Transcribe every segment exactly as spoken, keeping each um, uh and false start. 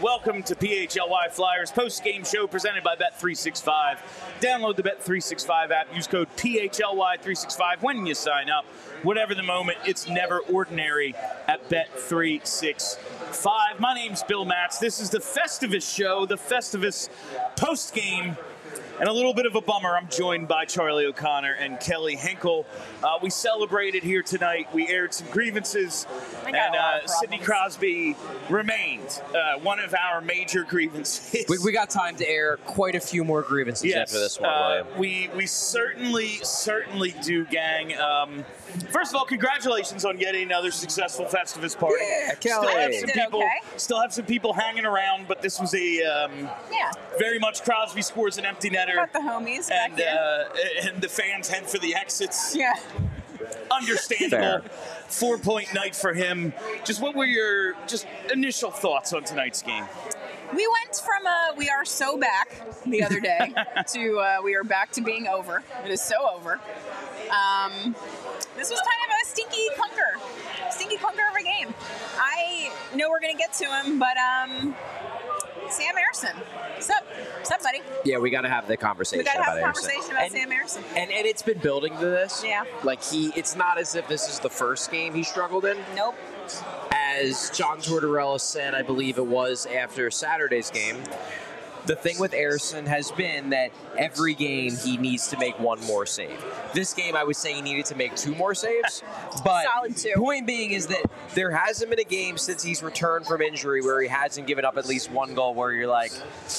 welcome to P H L Y Flyers post-game show presented by Bet three sixty-five. Download the Bet three sixty-five app. Use code P H L Y three sixty-five when you sign up. Whatever the moment, it's never ordinary at Bet three sixty-five. My name's Bill Matz. This is the Festivus show, the Festivus post-game. And a little bit of a bummer, I'm joined by Charlie O'Connor and Kelly Hinkle. Uh, we celebrated here tonight. We aired some grievances, and uh, Sidney Crosby remained uh, one of our major grievances. We, we got time to air quite a few more grievances yes, after this one, uh, William. We, we certainly, certainly do, gang. Um, first of all, congratulations on getting another successful Festivus party. Yeah, Kelly. Still have some Did people, okay. still have some people hanging around, but this was a um, Yeah. very much Crosby scores an empty netter. Got the homies back And, here. uh, and the fans head for the exits. Yeah. Understandable. Fair. Four-point night for him. Just what were your just initial thoughts on tonight's game? We went from uh, we are so back the other day to uh, we are back to being over. It is so over. Um, this was kind of a stinky clunker. Stinky clunker of a game. I know we're going to get to him, but um, Sam Ersson. What's up? What's up, buddy? Yeah, we got to have the conversation We got to about have a Anderson. conversation about and, Sam Ersson. And, and it's been building to this. Yeah. Like, he, it's not as if this is the first game he struggled in. Nope. As John Tortorella said, I believe it was after Saturday's game, the thing with Ersson has been that every game he needs to make one more save. This game, I would say he needed to make two more saves. But Solid two. point being is that there hasn't been a game since he's returned from injury where he hasn't given up at least one goal where you're like,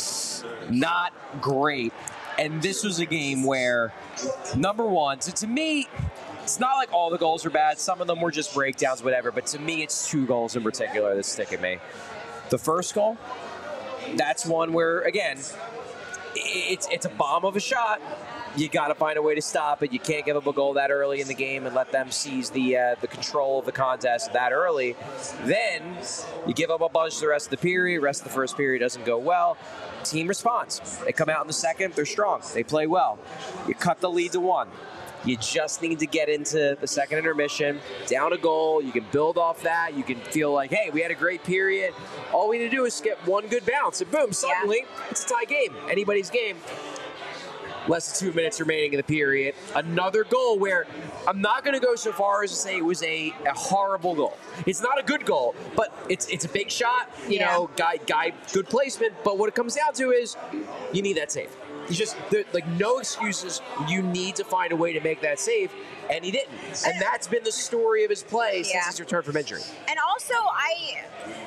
not great. And this was a game where, number one, so to me, it's not like all the goals are bad. Some of them were just breakdowns, whatever. But to me, it's two goals in particular that stick at me. The first goal, that's one where, again, it's it's a bomb of a shot. You got to find a way to stop it. You can't give up a goal that early in the game and let them seize the uh, the control of the contest that early. Then you give up a bunch the rest of the period. Rest of the first period doesn't go well. Team responds. They come out in the second. They're strong. They play well. You cut the lead to one. You just need to get into the second intermission, down a goal. You can build off that. You can feel like, hey, we had a great period. All we need to do is get one good bounce, and boom, suddenly yeah. it's a tie game. Anybody's game. Less than two minutes remaining in the period. Another goal where I'm not going to go so far as to say it was a, a horrible goal. It's not a good goal, but it's it's a big shot. You yeah. know, guy guy good placement. But what it comes down to is you need that save. You just, like, no excuses. You need to find a way to make that save, and he didn't. And that's been the story of his play yeah. since his return from injury. And also, I,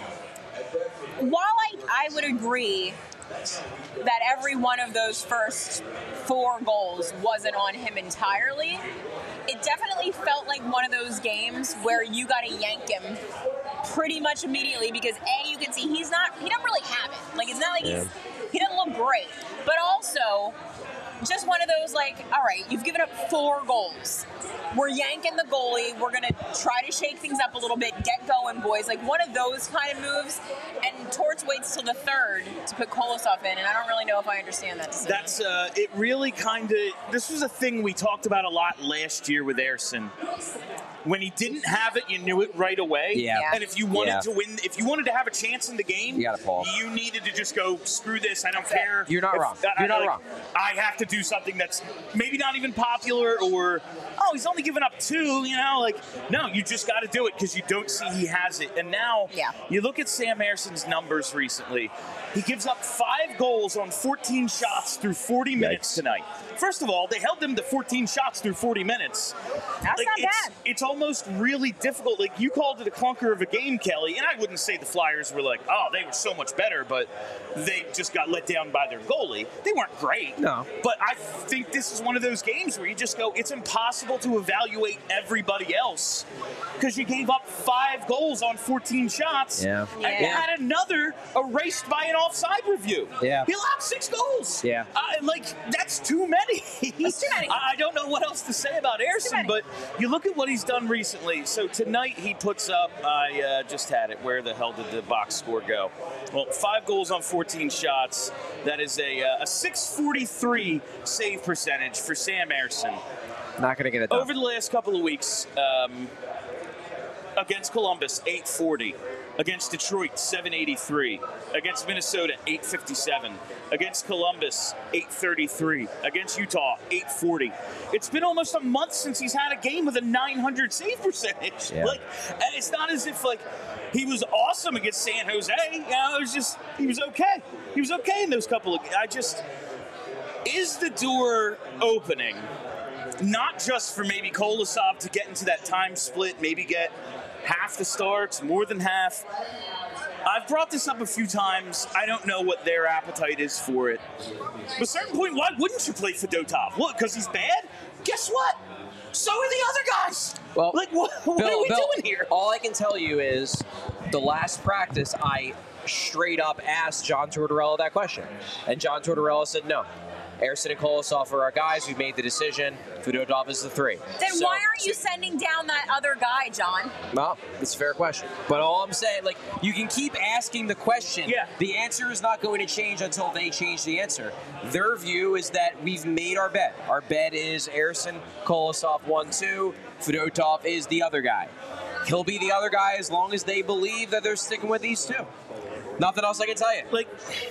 while I, I would agree that every one of those first four goals wasn't on him entirely, it definitely felt like one of those games where you got to yank him pretty much immediately because, A, you can see he's not, he doesn't really have it. Like, it's not like yeah. he's, he doesn't look great. But also, just one of those, like, all right, you've given up four goals. We're yanking the goalie. We're going to try to shake things up a little bit. Get going, boys. Like, one of those kind of moves. And Torts waits till the third to put Kolosov in, and I don't really know if I understand that decision. That's, uh, it really kind of, this was a thing we talked about a lot last year with Ersson. When he didn't have it, you knew it right away. Yeah. And if you wanted yeah. to win, if you wanted to have a chance in the game, you gotta pull. You needed to just go, screw this, I don't care. You're not if, wrong. I, You're not like, wrong. I have to do something that's maybe not even popular or, oh, he's only given up two, you know? Like, no, you just got to do it because you don't see he has it. And now yeah. you look at Sam Ersson's numbers recently. He gives up five goals on fourteen shots through forty Yikes. minutes tonight. First of all, they held him to fourteen shots through forty minutes. That's like, not it's, bad. It's almost really difficult. Like, you called it a clunker of a game, Kelly, and I wouldn't say the Flyers were like, oh, they were so much better, but they just got let down by their goalie. They weren't great. No. But I think this is one of those games where you just go, it's impossible to evaluate everybody else because you gave up five goals on fourteen shots. Yeah. And Yeah. you had another erased by an offside review. Yeah. He allowed six goals. Yeah. Uh, like, that's too many. That's too many. I I don't know what else to say about Ersson, but you look at what he's done recently. So tonight he puts up, I uh, just had it, where the hell did the box score go? Well, five goals on fourteen shots. That is a, uh, a six forty-three save percentage for Sam Ersson. Not going to get it done. Over the last couple of weeks, um, against Columbus, eight forty. Against Detroit, seven eighty-three. Against Minnesota, eight fifty-seven. Against Columbus, eight thirty-three. Against Utah, eight forty. It's been almost a month since he's had a game with a nine hundred save percentage. Yeah. Like, and it's not as if like he was awesome against San Jose. You know, it was just he was okay. He was okay in those couple of. I just is the door opening, not just for maybe Kolosov to get into that time split, maybe get half the starts, more than half. I've brought this up a few times. I don't know what their appetite is for it. But at a certain point, why wouldn't you play Fedotov? What, because he's bad? Guess what? So are the other guys. Well, like, what, what Bill, are we Bill, doing here? All I can tell you is the last practice, I straight up asked John Tortorella that question. And John Tortorella said no. Ersson and Kolosov are our guys. We made the decision. Fedotov is the three. Then So- why aren't you sending down that other guy, John? Well, it's a fair question. But all I'm saying, like, you can keep asking the question. Yeah. The answer is not going to change until they change the answer. Their view is that we've made our bet. Our bet is Ersson, Kolosov, one, two. Fedotov is the other guy. He'll be the other guy as long as they believe that they're sticking with these two. Nothing else I can tell you. Like,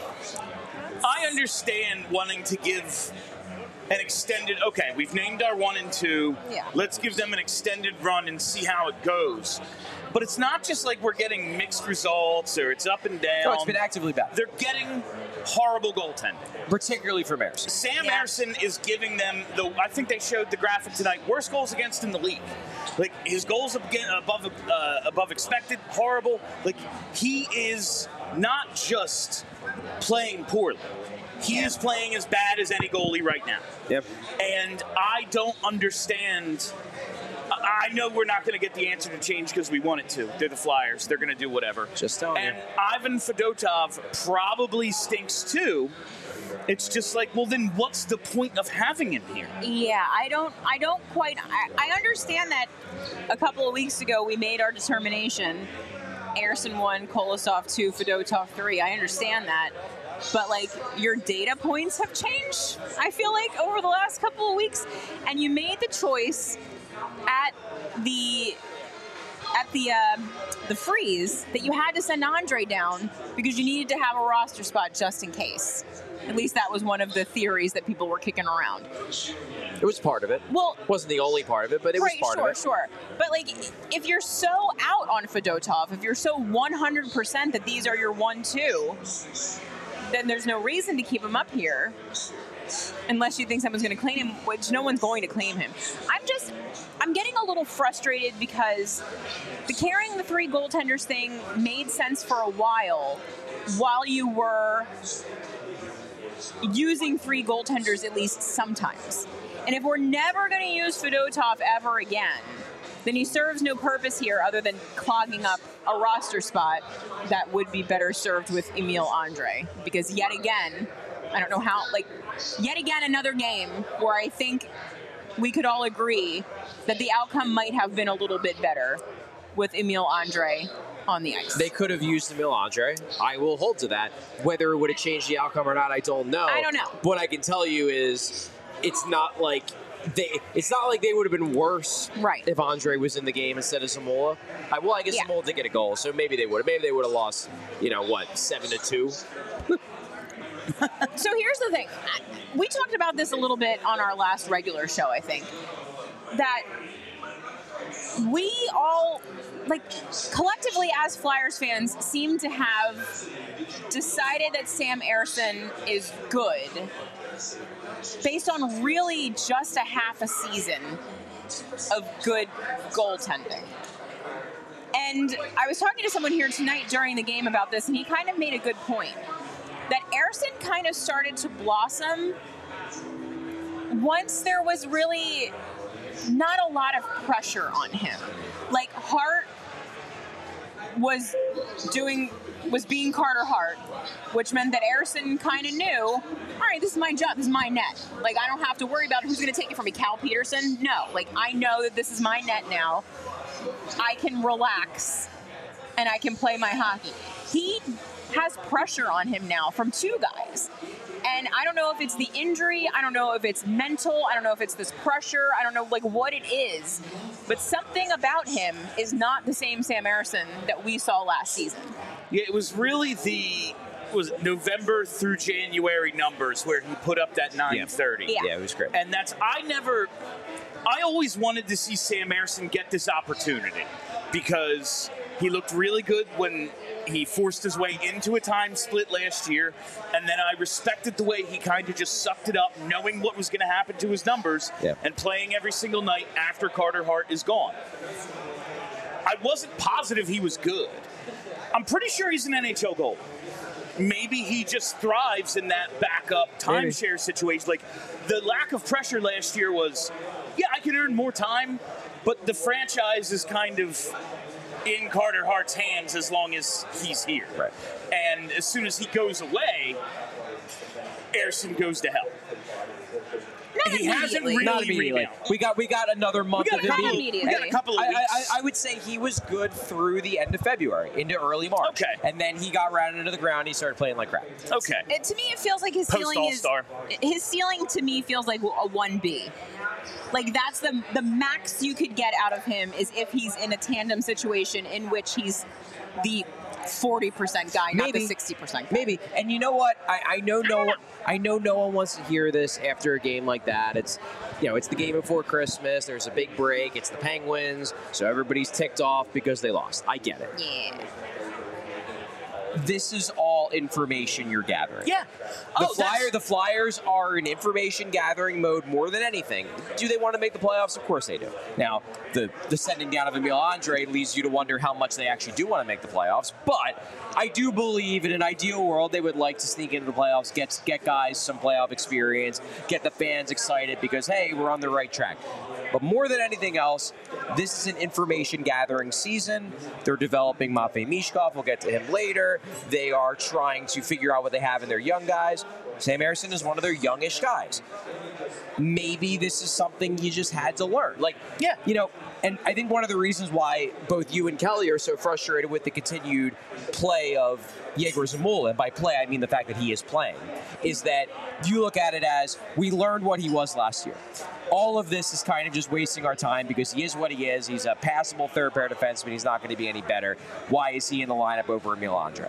I understand wanting to give an extended, okay, we've named our one and two. Yeah. Let's give them an extended run and see how it goes. But it's not just like we're getting mixed results or it's up and down. No, it's been actively bad. They're getting horrible goaltending. Particularly from Ersson. Sam Yeah. Ersson is giving them the. I think they showed the graphic tonight. Worst goals against in the league. Like his goals above uh, above expected, horrible. Like he is not just playing poorly. He is playing as bad as any goalie right now. Yep. And I don't understand. I know we're not going to get the answer to change because we want it to. They're the Flyers. They're going to do whatever. Just telling And you. Ivan Fedotov probably stinks too. It's just like, well, then what's the point of having him here? Yeah, I don't I don't quite I, I understand that a couple of weeks ago we made our determination. Ersson one, Kolosov two, Fedotov three. I understand that. But like your data points have changed, I feel like, over the last couple of weeks. And you made the choice at the at the uh, the freeze that you had to send Andre down because you needed to have a roster spot just in case. At least that was one of the theories that people were kicking around. It was part of it. Well, Wasn't the only part of it, but it right, was part sure, of it. sure. But like, if you're so out on Fedotov, if you're so one hundred percent that these are your one two, then there's no reason to keep him up here. Unless you think someone's going to claim him, which no one's going to claim him. I'm just, I'm getting a little frustrated because the carrying the three goaltenders thing made sense for a while, while you were using three goaltenders at least sometimes. And if we're never going to use Fedotov ever again, then he serves no purpose here other than clogging up a roster spot that would be better served with Emil Andre. Because yet again, I don't know how, like, yet again another game where I think we could all agree that the outcome might have been a little bit better with Emil Andre on the ice. They could have used Emil Andre. I will hold to that. Whether it would have changed the outcome or not, I don't know. I don't know. What I can tell you is it's not like they it's not like they would have been worse Right. if Andre was in the game instead of Zamola. I, well, I guess Yeah. Zamola did get a goal, so maybe they would have. Maybe they would have lost, you know, what, seven to two? So here's the thing. We talked about this a little bit on our last regular show, I think. That we all, like, collectively as Flyers fans, seem to have decided that Sam Ersson is good based on really just a half a season of good goaltending. And I was talking to someone here tonight during the game about this, and he kind of made a good point. That Ersson kind of started to blossom once there was really not a lot of pressure on him. Like Hart was doing, was being Carter Hart, which meant that Ersson kind of knew, all right, this is my job, this is my net. Like I don't have to worry about who's going to take it from me, Cal Peterson. No, like I know that this is my net now. I can relax and I can play my hockey. He has pressure on him now from two guys. And I don't know if it's the injury, I don't know if it's mental, I don't know if it's this pressure, I don't know like what it is, but something about him is not the same Sam Emerson that we saw last season. Yeah, it was really the was it November through January numbers where he put up that nine thirty. Yeah. Yeah, it was great. And that's I never I always wanted to see Sam Emerson get this opportunity because he looked really good when he forced his way into a time split last year, and then I respected the way he kind of just sucked it up, knowing what was going to happen to his numbers, Yeah. and playing every single night after Carter Hart is gone. I wasn't positive he was good. I'm pretty sure he's an N H L goalie. Maybe he just thrives in that backup timeshare situation. Like, the lack of pressure last year was, yeah, I can earn more time, but the franchise is kind of in Carter Hart's hands as long as he's here. Right. And as soon as he goes away, Ersson goes to hell. Not He hasn't immediately. really Not immediately. rebounded. We got we got another month We got of a him couple, being- we got a couple of I, weeks. I, I would say he was good through the end of February into early March. Okay. And then he got rounded into the ground. He started playing like crap. Okay. It, to me, it feels like his Post ceiling is All-Star. his ceiling to me feels like a one B. Like that's the the max you could get out of him is if he's in a tandem situation in which he's the forty percent guy, not Maybe. the sixty percent guy. Maybe. And you know what? I, I know no one, I know no one wants to hear this after a game like that. It's you know, it's the game before Christmas. There's a big break. It's the Penguins, so everybody's ticked off because they lost. I get it. Yeah. This is all information you're gathering. Yeah. The Oh, flyer, that's- the Flyers are in information gathering mode more than anything. Do they want to make the playoffs? Of course they do. Now, the the sending down of Emil Andre leads you to wonder how much they actually do want to make the playoffs. But I do believe in an ideal world they would like to sneak into the playoffs, get get guys some playoff experience, get the fans excited because hey, we're on the right track. But more than anything else, this is an information gathering season. They're developing Matvei Mishkov. We'll get to him later. They are trying to figure out what they have in their young guys. Sam Ersson is one of their youngish guys. Maybe this is something you just had to learn. Like, Yeah. you know, and I think one of the reasons why both you and Kelly are so frustrated with the continued play of Yegor Zamula, and by play I mean the fact that he is playing, is that you look at it as we learned what he was last year. All of this is kind of just wasting our time because he is what he is. He's a passable third pair defenseman. He's not going to be any better. Why is he in the lineup over Emil Andre?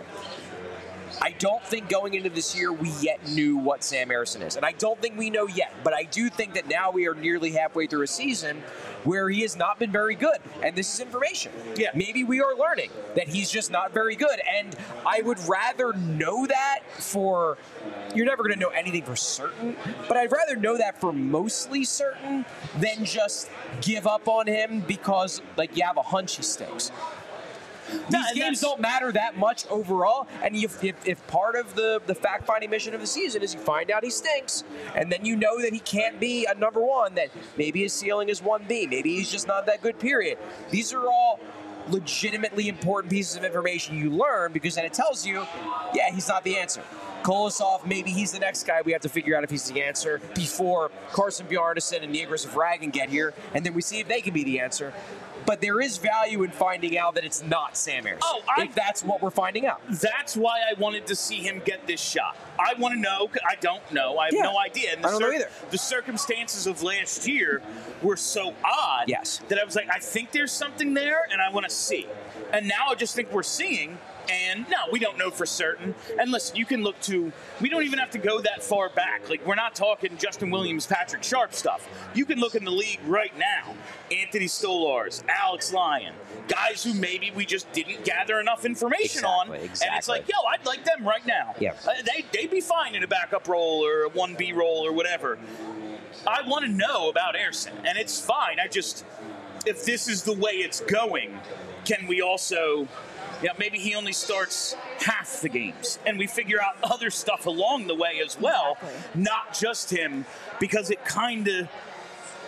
I don't think going into this year we yet knew what Sam Ersson is. And I don't think we know yet. But I do think that now we are nearly halfway through a season where he has not been very good. And this is information. Yeah. Maybe we are learning that he's just not very good. And I would rather know that for, you're never going to know anything for certain, but I'd rather know that for mostly certain than just give up on him because, like, you have a hunch he stinks. No, These and games that's- don't matter that much overall, and if, if, if part of the, the fact-finding mission of the season is you find out he stinks, and then you know that he can't be a number one, that maybe his ceiling is one B, maybe he's just not that good, period. These are all legitimately important pieces of information you learn because then it tells you, yeah, he's not the answer. Kolosov, maybe he's the next guy. We have to figure out if he's the answer before Carson Bjarnason and Nigris Vragan get here, and then we see if they can be the answer. But there is value in finding out that it's not Sam Ersson. Oh, I- if that's what we're finding out. That's why I wanted to see him get this shot. I want to know. I don't know. I have Yeah. no idea. And the I don't know either. The circumstances of last year were so odd Yes. that I was like, I think there's something there, and I want to see. And now I just think we're seeing. And no, we don't know for certain. And listen, you can look to, we don't even have to go that far back. Like, we're not talking Justin Williams, Patrick Sharp stuff. You can look in the league right now. Anthony Stolars, Alex Lyon, guys who maybe we just didn't gather enough information on. Exactly, And it's exactly. like, yo, I'd like them right now. Yeah. Uh, they, they'd be fine in a backup role or a one B role or whatever. I want to know about Ersson, and it's fine. I just, if this is the way it's going, can we also... Yeah, maybe he only starts half the games, and we figure out other stuff along the way as well, Exactly. not just him, because it kind of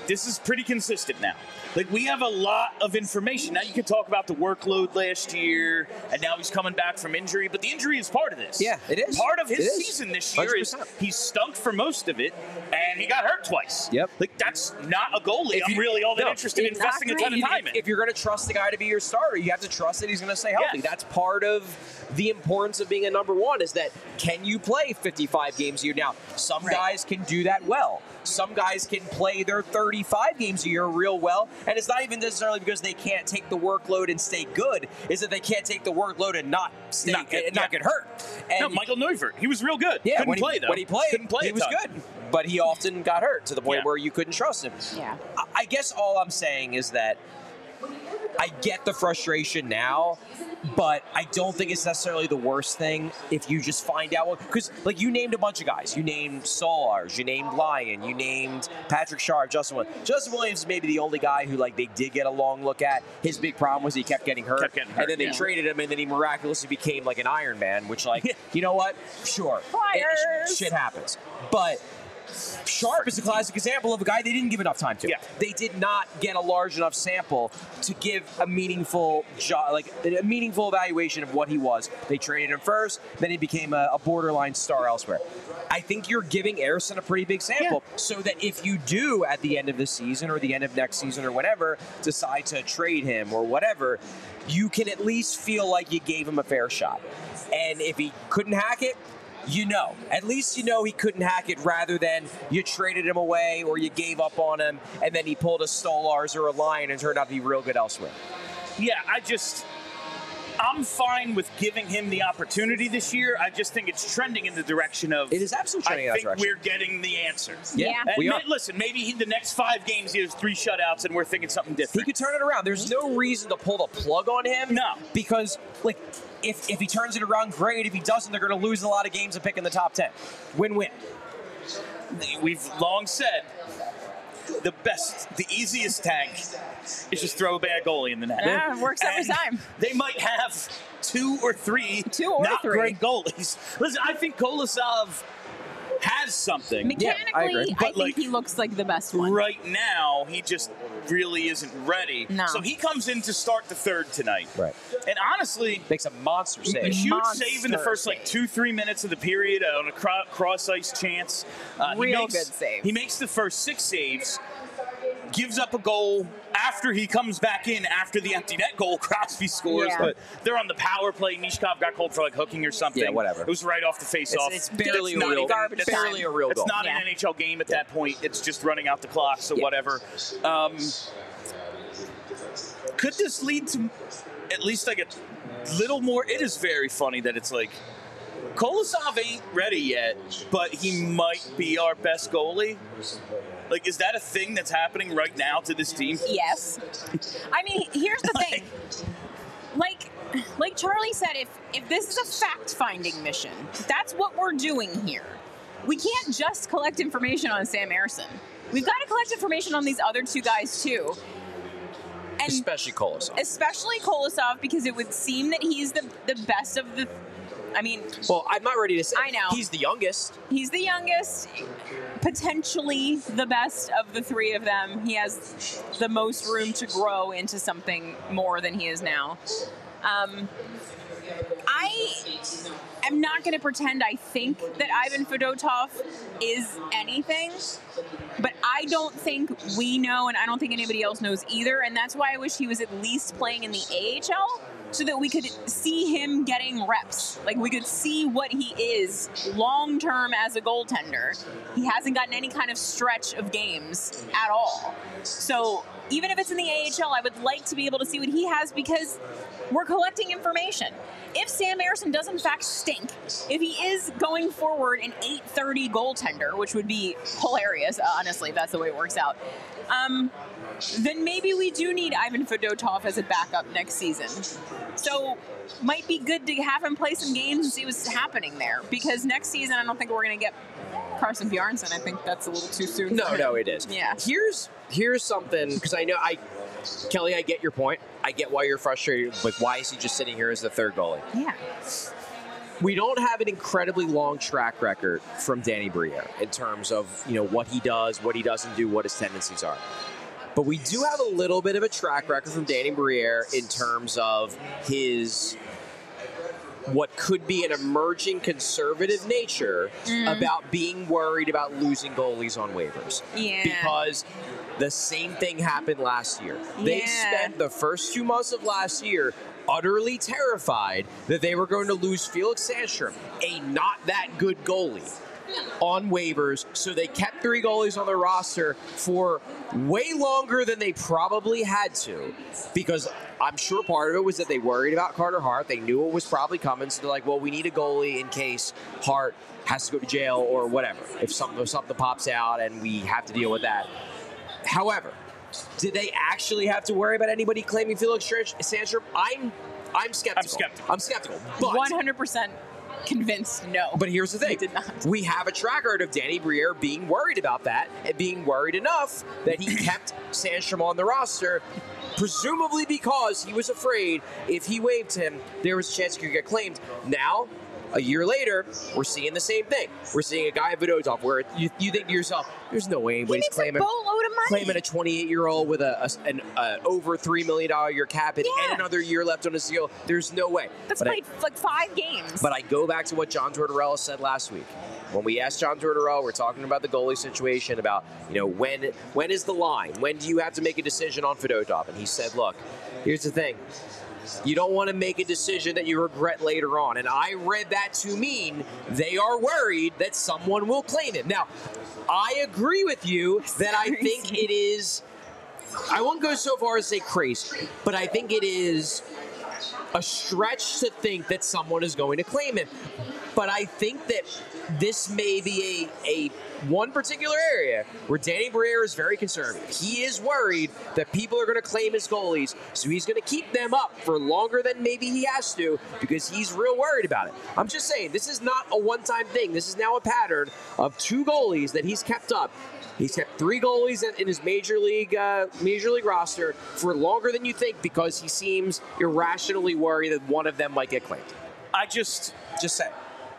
this is pretty consistent now. Like, we have a lot of information. Now, you can talk about the workload last year, and now he's coming back from injury, but the injury is part of this. Yeah, it is. Part of his It is. season this year one hundred is percent. he stunk for most of it, and he got hurt twice. Yep. Like, that's not a goalie If I'm you- really all that no, interested in it's investing a not ton of great. time If, in. if you're going to trust the guy to be your starter, you have to trust that he's going to stay healthy. Yes. That's part of the importance of being a number one is that can you play fifty-five games a year? Now, some Right. guys can do that well. Some guys can play their thirty-five games a year real well, and it's not even necessarily because they can't take the workload and stay good. Is that they can't take the workload and not stay Not get- and not yeah. get hurt. And no, Michael Neuvert, he was real good. yeah, Couldn't when he, play, though. when he played, Couldn't play he a was ton. good, but he often got hurt to the point Yeah. where you couldn't trust him. Yeah. I- I guess all I'm saying is that I get the frustration now, but I don't think it's necessarily the worst thing if you just find out. Because, like, you named a bunch of guys. You named Solars, you named Lyon, you named Patrick Sharp, Justin Williams. Justin Williams is maybe the only guy who, like, they did get a long look at. His big problem was he kept getting hurt. Kept getting hurt, and then they yeah. traded him, and then he miraculously became, like, an Iron Man, which, like, you know what? Sure. It- Flyers. shit happens. But Sharp is a classic example of a guy they didn't give enough time to. Yeah. They did not get a large enough sample to give a meaningful job, like a meaningful evaluation of what he was. They traded him first, then he became a, a borderline star elsewhere. I think you're giving Ersson a pretty big sample, so that if you do at the end of the season or the end of next season or whenever decide to trade him or whatever, you can at least feel like you gave him a fair shot. And if he couldn't hack it, you know. At least you know he couldn't hack it rather than you traded him away or you gave up on him and then he pulled a Stolars or a Lion and turned out to be real good elsewhere. Yeah, I just, I'm fine with giving him the opportunity this year. I just think it's trending in the direction of. It is absolutely trending in I that think direction. we're getting the answer. Yeah. And we ma- are. listen, maybe he, the next five games he has three shutouts, and we're thinking something He different. could turn it around. There's no reason to pull the plug on him. No. Because, like, if, if he turns it around, great. If he doesn't, they're going to lose a lot of games and pick in the top ten. Win-win. We've long said the best, the easiest tank is just throw a bad goalie in the net. Yeah, it works every And time. They might have two or three Two or not three. great goalies. Listen, I think Kolosov has something. Mechanically, I agree. I, But, think like, he looks like the best one. Right now, he just really isn't ready. No. So he comes in to start the third tonight. Right. And honestly, Makes a monster a save. huge Monster save in the first like save. two, three minutes of the period on a cro- cross ice chance. Uh, he Real makes, good save. He makes the first six saves, gives up a goal after he comes back in after the empty net goal Crosby scores. Yeah. But they're on the power play. Mishkov got called for like hooking or something. Yeah, whatever. It was right off the face-off. It's, it's barely That's a not real, even- garbage that's time. barely a real It's goal. not Yeah. an N H L game at that point. It's just running out the clock, so Yeah. whatever. Um, could this lead to at least like a little more? It is very funny that it's like Kolosov ain't ready yet, but he might be our best goalie. Like, is that a thing that's happening right now to this team? Yes. I mean, here's the thing. Like, like Charlie said, if if this is a fact-finding mission, that's what we're doing here. We can't just collect information on Sam Ersson. We've got to collect information on these other two guys too. And Especially Kolosov. especially Kolosov, because it would seem that he's the the best of the. I mean, Well, I'm not ready to say. I know. He's the youngest. he's the youngest, potentially the best of the three of them. He has the most room to grow into something more than he is now. Um, I am not going to pretend I think that Ivan Fedotov is anything, but I don't think we know, and I don't think anybody else knows either, and that's why I wish he was at least playing in the A H L so that we could see him getting reps. Like, we could see what he is long-term as a goaltender. He hasn't gotten any kind of stretch of games at all. So even if it's in the A H L, I would like to be able to see what he has because we're collecting information. If Sam Ersson does in fact stink, if he is going forward an eight thirty goaltender, which would be hilarious, honestly, if that's the way it works out, um, then maybe we do need Ivan Fedotov as a backup next season. So might be good to have him play some games and see what's happening there. Because next season, I don't think we're going to get Carson Bjarnson. I think that's a little too soon. No, for him. no, it is. Yeah. Here's here's something because I know I, Kelly, I get your point. I get why you're frustrated with why is he just sitting here as the third goalie. Yeah. we don't have an incredibly long track record from Danny Briere in terms of, you know, what he does, what he doesn't do, what his tendencies are. But we do have a little bit of a track record from Danny Briere in terms of his what could be an emerging conservative nature mm. about being worried about losing goalies on waivers. Yeah. Because the same thing happened last year. They Yeah. spent the first two months of last year utterly terrified that they were going to lose Felix Sandstrom, a not that good goalie, on waivers, so they kept three goalies on their roster for way longer than they probably had to, because I'm sure part of it was that they worried about Carter Hart. They knew it was probably coming, so they're like, well, we need a goalie in case Hart has to go to jail or whatever, if something, if something pops out and we have to deal with that. However, did they actually have to worry about anybody claiming Felix Sandstrom? I'm, I'm skeptical. I'm skeptical. I'm skeptical. But one hundred percent convinced no. But here's the thing. They did not. We have a track record of Danny Briere being worried about that and being worried enough that he kept Sandstrom on the roster, presumably because he was afraid if he waived him, there was a chance he could get claimed. Now, a year later, we're seeing the same thing. We're seeing a guy at Vedotov where you, you think to yourself, there's no way anybody's he makes claiming a boatload of money. claiming a twenty-eight-year-old with a, a an uh, over three million dollars a year cap hit Yeah. and another year left on his deal. There's no way. That's But I- played like five games. but I go back to what John Tortorella said last week. When we asked John Tortorella, we're talking about the goalie situation, about, you know, when when is the line? When do you have to make a decision on Fedotov? And he said, look, here's the thing. You don't want to make a decision that you regret later on. And I read that to mean they are worried that someone will claim him. Now, I agree with you that I think it is, I won't go so far as to say crazy, but I think it is a stretch to think that someone is going to claim him. But I think that this may be a, a one particular area where Danny Briere is very conservative. He is worried that people are going to claim his goalies, so he's going to keep them up for longer than maybe he has to because he's real worried about it. I'm just saying, this is not a one-time thing. This is now a pattern of two goalies that he's kept up. He's kept three goalies in his major league uh, major league roster for longer than you think because he seems irrationally worried that one of them might get claimed. I just, Just saying.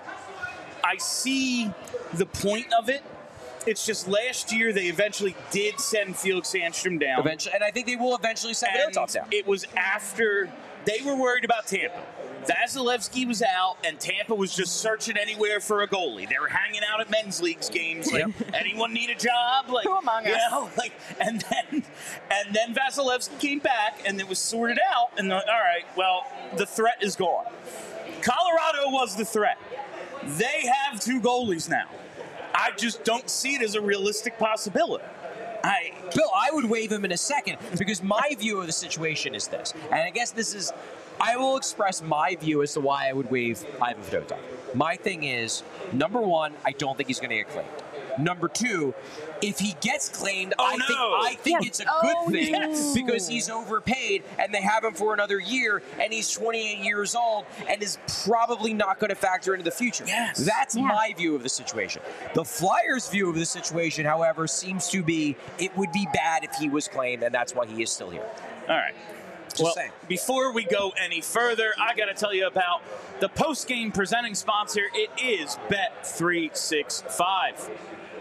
I see the point of it. It's just last year they eventually did send Felix Sandstrom down. Eventually, and I think they will eventually send And Vedotov down. it was after they were worried about Tampa. Vasilevsky was out, and Tampa was just searching anywhere for a goalie. They were hanging out at men's leagues games, like, anyone need a job? Like, Who among you us? know, like, and then, and then Vasilevsky came back, and it was sorted out. And the, all right, well, the threat is gone. Colorado was the threat. They have two goalies now. I just don't see it as a realistic possibility. I, Bill, I would waive him in a second because my view of the situation is this. And I guess this is, I will express my view as to why I would waive Ivan Fedotov. My thing is, number one, I don't think he's going to get claimed. Number two, if he gets claimed, Oh, I no. think I think Yes. it's a Oh, good thing yes. because he's overpaid and they have him for another year and he's twenty-eight years old and is probably not going to factor into the future. Yes. That's Yeah. my view of the situation. The Flyers' view of the situation, however, seems to be it would be bad if he was claimed, and that's why he is still here. all right. Just well, saying. before we go any further, I got to tell you about the post-game presenting sponsor. It is Bet three sixty-five.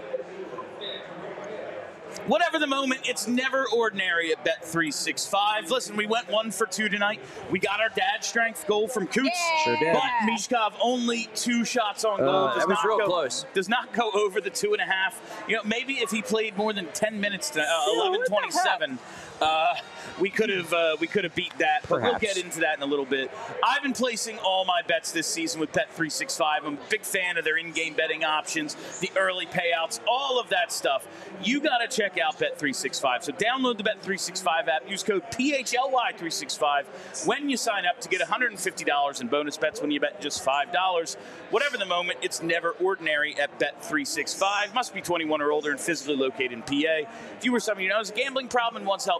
Whatever the moment, it's never ordinary at Bet three sixty-five. Listen, we went one for two tonight. We got our dad strength goal from Coots. Yeah. Sure did. But Mishkov only two shots on goal. Uh, does that was not real go, close. Does not go over the two and a half. You know, maybe if he played more than ten minutes to uh, eleven twenty-seven, uh, we could have uh, we could have beat that. But we'll Perhaps. get into that in a little bit. I've been placing all my bets this season with Bet three sixty-five. I'm a big fan of their in-game betting options, the early payouts, all of that stuff. You got to check out Bet three sixty-five. So download the Bet three sixty-five app. Use code P H L Y three sixty-five when you sign up to get one hundred fifty dollars in bonus bets when you bet just five dollars. Whatever the moment, it's never ordinary at Bet three sixty-five. Must be twenty-one or older and physically located in P A. If you or someone you know has a gambling problem and wants help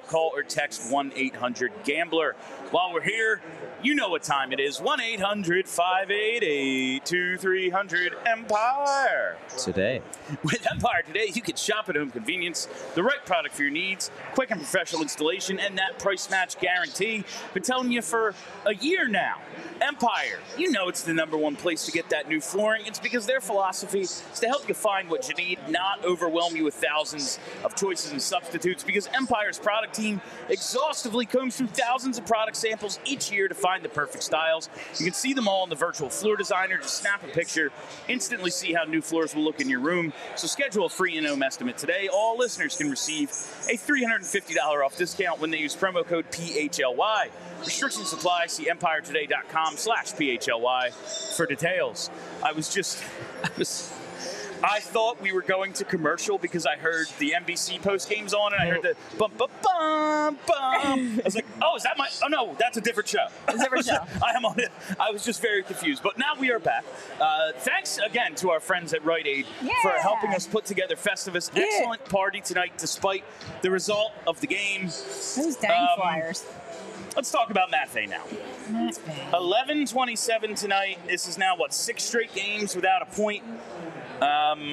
Call or text one eight hundred gambler. While we're here, you know what time it is. one eight hundred five eight eight two three zero zero Empire. Today. With Empire today, you can shop at home convenience, the right product for your needs, quick and professional installation, and that price match guarantee. Been telling you for a year now. Empire, you know it's the number one place to get that new flooring. It's because their philosophy is to help you find what you need, not overwhelm you with thousands of choices and substitutes, because Empire's product team exhaustively combs through thousands of product samples each year to find the perfect styles. You can see them all in the virtual floor designer. Just snap a picture, instantly see how new floors will look in your room. So schedule a free in-home estimate today. All listeners can receive a three hundred fifty dollars off discount when they use promo code P H L Y. Restrictions apply. See empire today dot com slash P H L Y for details. I was just, I was, I thought we were going to commercial because I heard the N B C post games on and I heard the bum bum bum bum. I was like, oh, is that my? Oh no, that's a different show. It's a different show. I am on it. I was just very confused, but now we are back. Uh, thanks again to our friends at Rite Aid Yeah. for helping us put together Festivus. Yeah. Excellent party tonight, despite the result of the game. Those dang Um, Flyers. Let's talk about Matvey now. Matvey. eleven twenty-seven tonight. This is now, what, six straight games without a point? Um,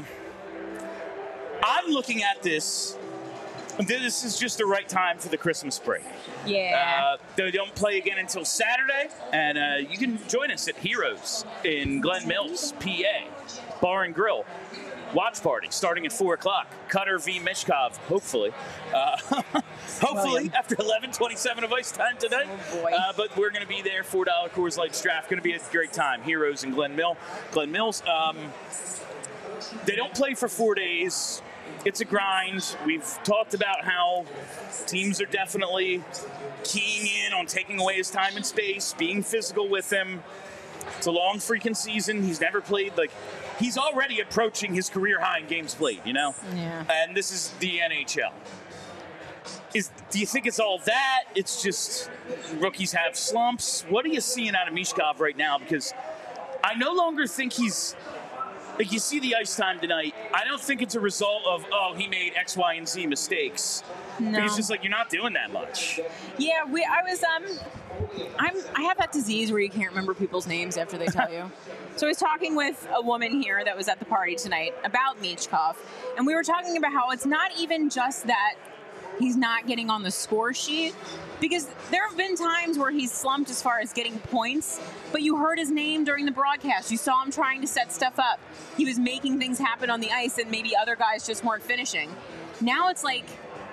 I'm looking at this. This is just the right time for the Christmas break. Yeah. Uh, they don't play again until Saturday, and uh, you can join us at Heroes in Glen Mills, P A, Bar and Grill. Watch party starting at four o'clock. Cutter v. Mishkov, hopefully. Uh, hopefully, William. after eleven twenty-seven of ice time tonight. Oh, boy. Uh, but we're going to be there. four dollar Coors Light draft. Going to be a great time. Heroes in Glen Mill. Glen Mills. Um, they don't play for four days. It's a grind. We've talked about how teams are definitely keying in on taking away his time and space, being physical with him. It's a long freaking season. He's never played, like, he's already approaching his career high in games played, you know? Yeah. And this is the N H L. Is, do you think it's all that? It's just rookies have slumps? What are you seeing out of Mishkov right now? Because I no longer think he's, like, you see the ice time tonight. I don't think it's a result of, oh, he made X, Y, and Z mistakes. No. But he's just like, you're not doing that much. Yeah, we. I was. Um, I'm. I have that disease where you can't remember people's names after they tell you. So I was talking with a woman here that was at the party tonight about Michkov, and we were talking about how it's not even just that he's not getting on the score sheet, because there have been times where he's slumped as far as getting points, but you heard his name during the broadcast. You saw him trying to set stuff up. He was making things happen on the ice, and maybe other guys just weren't finishing. Now it's like,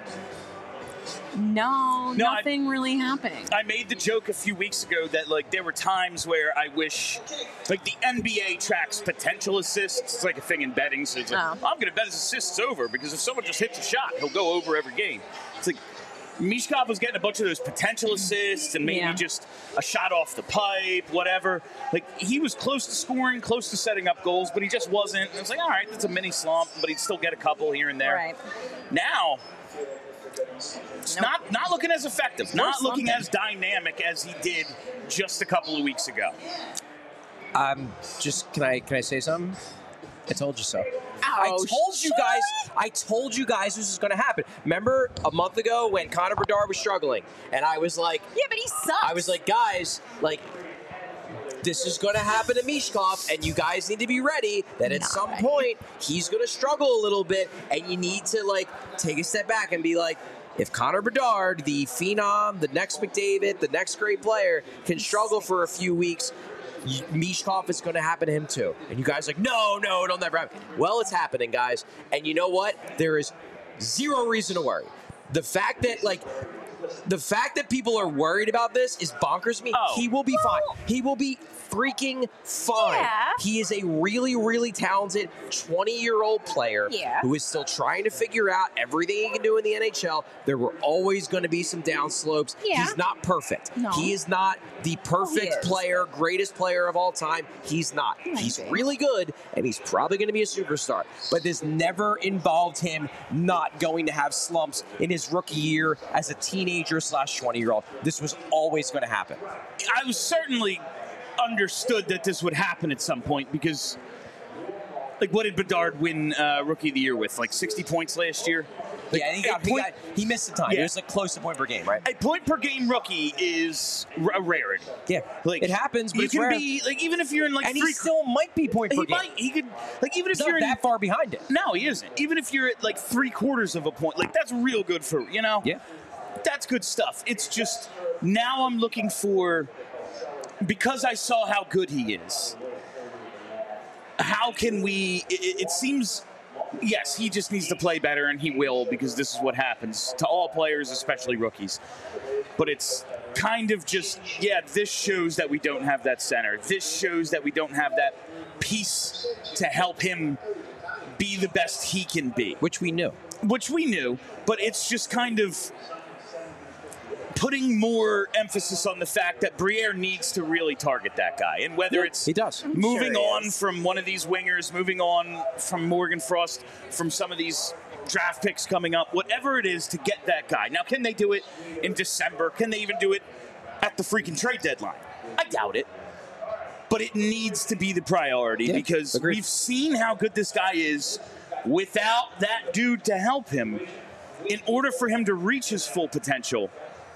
no, No, nothing really happening. I made the joke a few weeks ago that, like, there were times where I wish, like, the N B A tracks potential assists. It's like a thing in betting. So it's like, Oh. I'm going to bet his assists over because if someone just hits a shot, he'll go over every game. It's like Mishkov was getting a bunch of those potential assists and maybe Yeah. just a shot off the pipe, whatever. Like, he was close to scoring, close to setting up goals, but he just wasn't. And it's like, all right, that's a mini slump, but he'd still get a couple here and there. Right. Now, it's Nope. not not looking as effective, not looking slumping. as dynamic as he did just a couple of weeks ago. Um, just can I can I say something? I told you so. I Oh, told you shut guys. I told you guys this was going to happen. Remember a month ago when Connor Bedard was struggling, and I was like, Yeah, but he sucks. I was like, guys, like, this is going to happen to Mishkov, and you guys need to be ready that at Not some ready. point he's going to struggle a little bit, and you need to, like, take a step back and be like, if Connor Bedard, the phenom, the next McDavid, the next great player, can struggle for a few weeks, Mishkov is going to happen to him too. And you guys are like, no, no, it'll never happen. Well, it's happening, guys. And you know what? There is zero reason to worry. The fact that, like, the fact that people are worried about this is bonkers to me. Oh. He will be fine. He will be freaking fine. Yeah. He is a really, really talented twenty-year-old player Yeah. who is still trying to figure out everything he can do in the N H L. There were always going to be some down slopes. Yeah. He's not perfect. No. He is not the perfect is. player, greatest player of all time. He's not. He might He's be. really good, and he's probably going to be a superstar. But this never involved him not going to have slumps in his rookie year as a teenager slash twenty-year-old. This was always going to happen. I was certainly understood that this would happen at some point because, like, what did Bedard win uh, Rookie of the Year with? Like sixty points last year? Like, yeah, and he, got, a he, point, got, he missed the time. Yeah. It was like close to point per game, right? a point per game rookie is a rarity. Yeah, Like it happens, but you it's can rare. be like even if you're in like and three, he still might be point per he game. might he could like even if He's you're not in, that far behind it. no, he isn't. Even if you're at like three quarters of a point, like that's real good for you know. Yeah. That's good stuff. It's just now I'm looking for because I saw how good he is. How can we? It, it seems. Yes, he just needs to play better, and he will, because this is what happens to all players, especially rookies. But it's kind of just, yeah, this shows that we don't have that center. This shows that we don't have that piece to help him be the best he can be. Which we knew. Which we knew, but it's just kind of putting more emphasis on the fact that Briere needs to really target that guy. And whether Yeah, it's he does. moving Sure he on is. from one of these wingers, moving on from Morgan Frost, from some of these draft picks coming up, whatever it is to get that guy. Now, can they do it in December? Can they even do it at the freaking trade deadline? I doubt it. But it needs to be the priority Yeah, because agreed. we've seen how good this guy is without that dude to help him. In order for him to reach his full potential,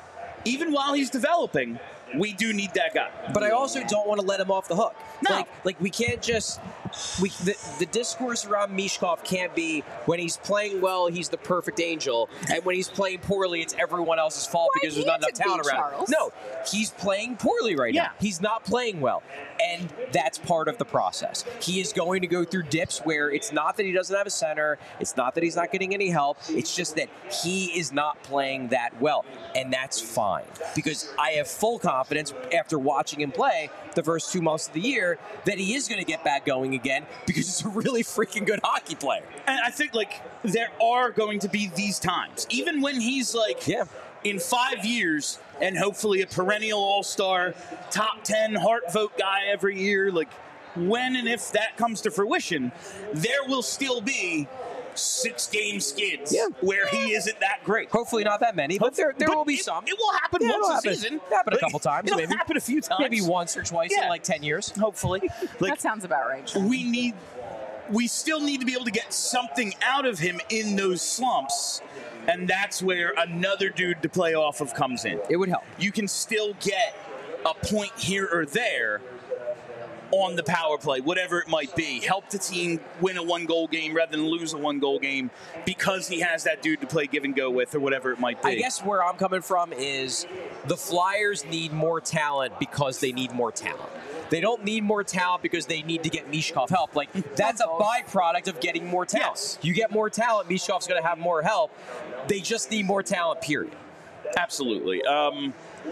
even while he's developing, we do need that guy. But I also don't want to let him off the hook. No. Like, like we can't just we the, the discourse around Mishkov can't be when he's playing well, he's the perfect angel, and when he's playing poorly, it's everyone else's fault Why because there's not enough can't it be, talent around. Charles? No, he's playing poorly right Yeah. now. He's not playing well, and that's part of the process. He is going to go through dips where it's not that he doesn't have a center, it's not that he's not getting any help, it's just that he is not playing that well, and that's fine because I have full confidence after watching him play the first two months of the year that he is going to get back going again because he's a really freaking good hockey player. And I think, like, there are going to be these times. Even when he's, like, Yeah. in five years and hopefully a perennial all-star, top ten Hart vote guy every year, like, when and if that comes to fruition, there will still be six-game skids Yeah. where he isn't that great. Hopefully not that many, but there there But will be it, some. It will happen Yeah, once it'll a happen. season. Happen a Like, couple times, It'll maybe. happen a few times. Maybe once or twice Yeah. in like ten years. Hopefully. Like, That sounds about right. we need we still need to be able to get something out of him in those slumps, and that's where another dude to play off of comes in. It would help. You can still get a point here or there on the power play, whatever it might be. Help the team win a one-goal game rather than lose a one-goal game because he has that dude to play give and go with or whatever it might be. I guess where I'm coming from is the Flyers need more talent because they need more talent. They don't need more talent because they need to get Mishkov help. Like, that's a byproduct of getting more talent. Yes. You get more talent, Mishkov's going to have more help. They just need more talent, period. Absolutely. Um,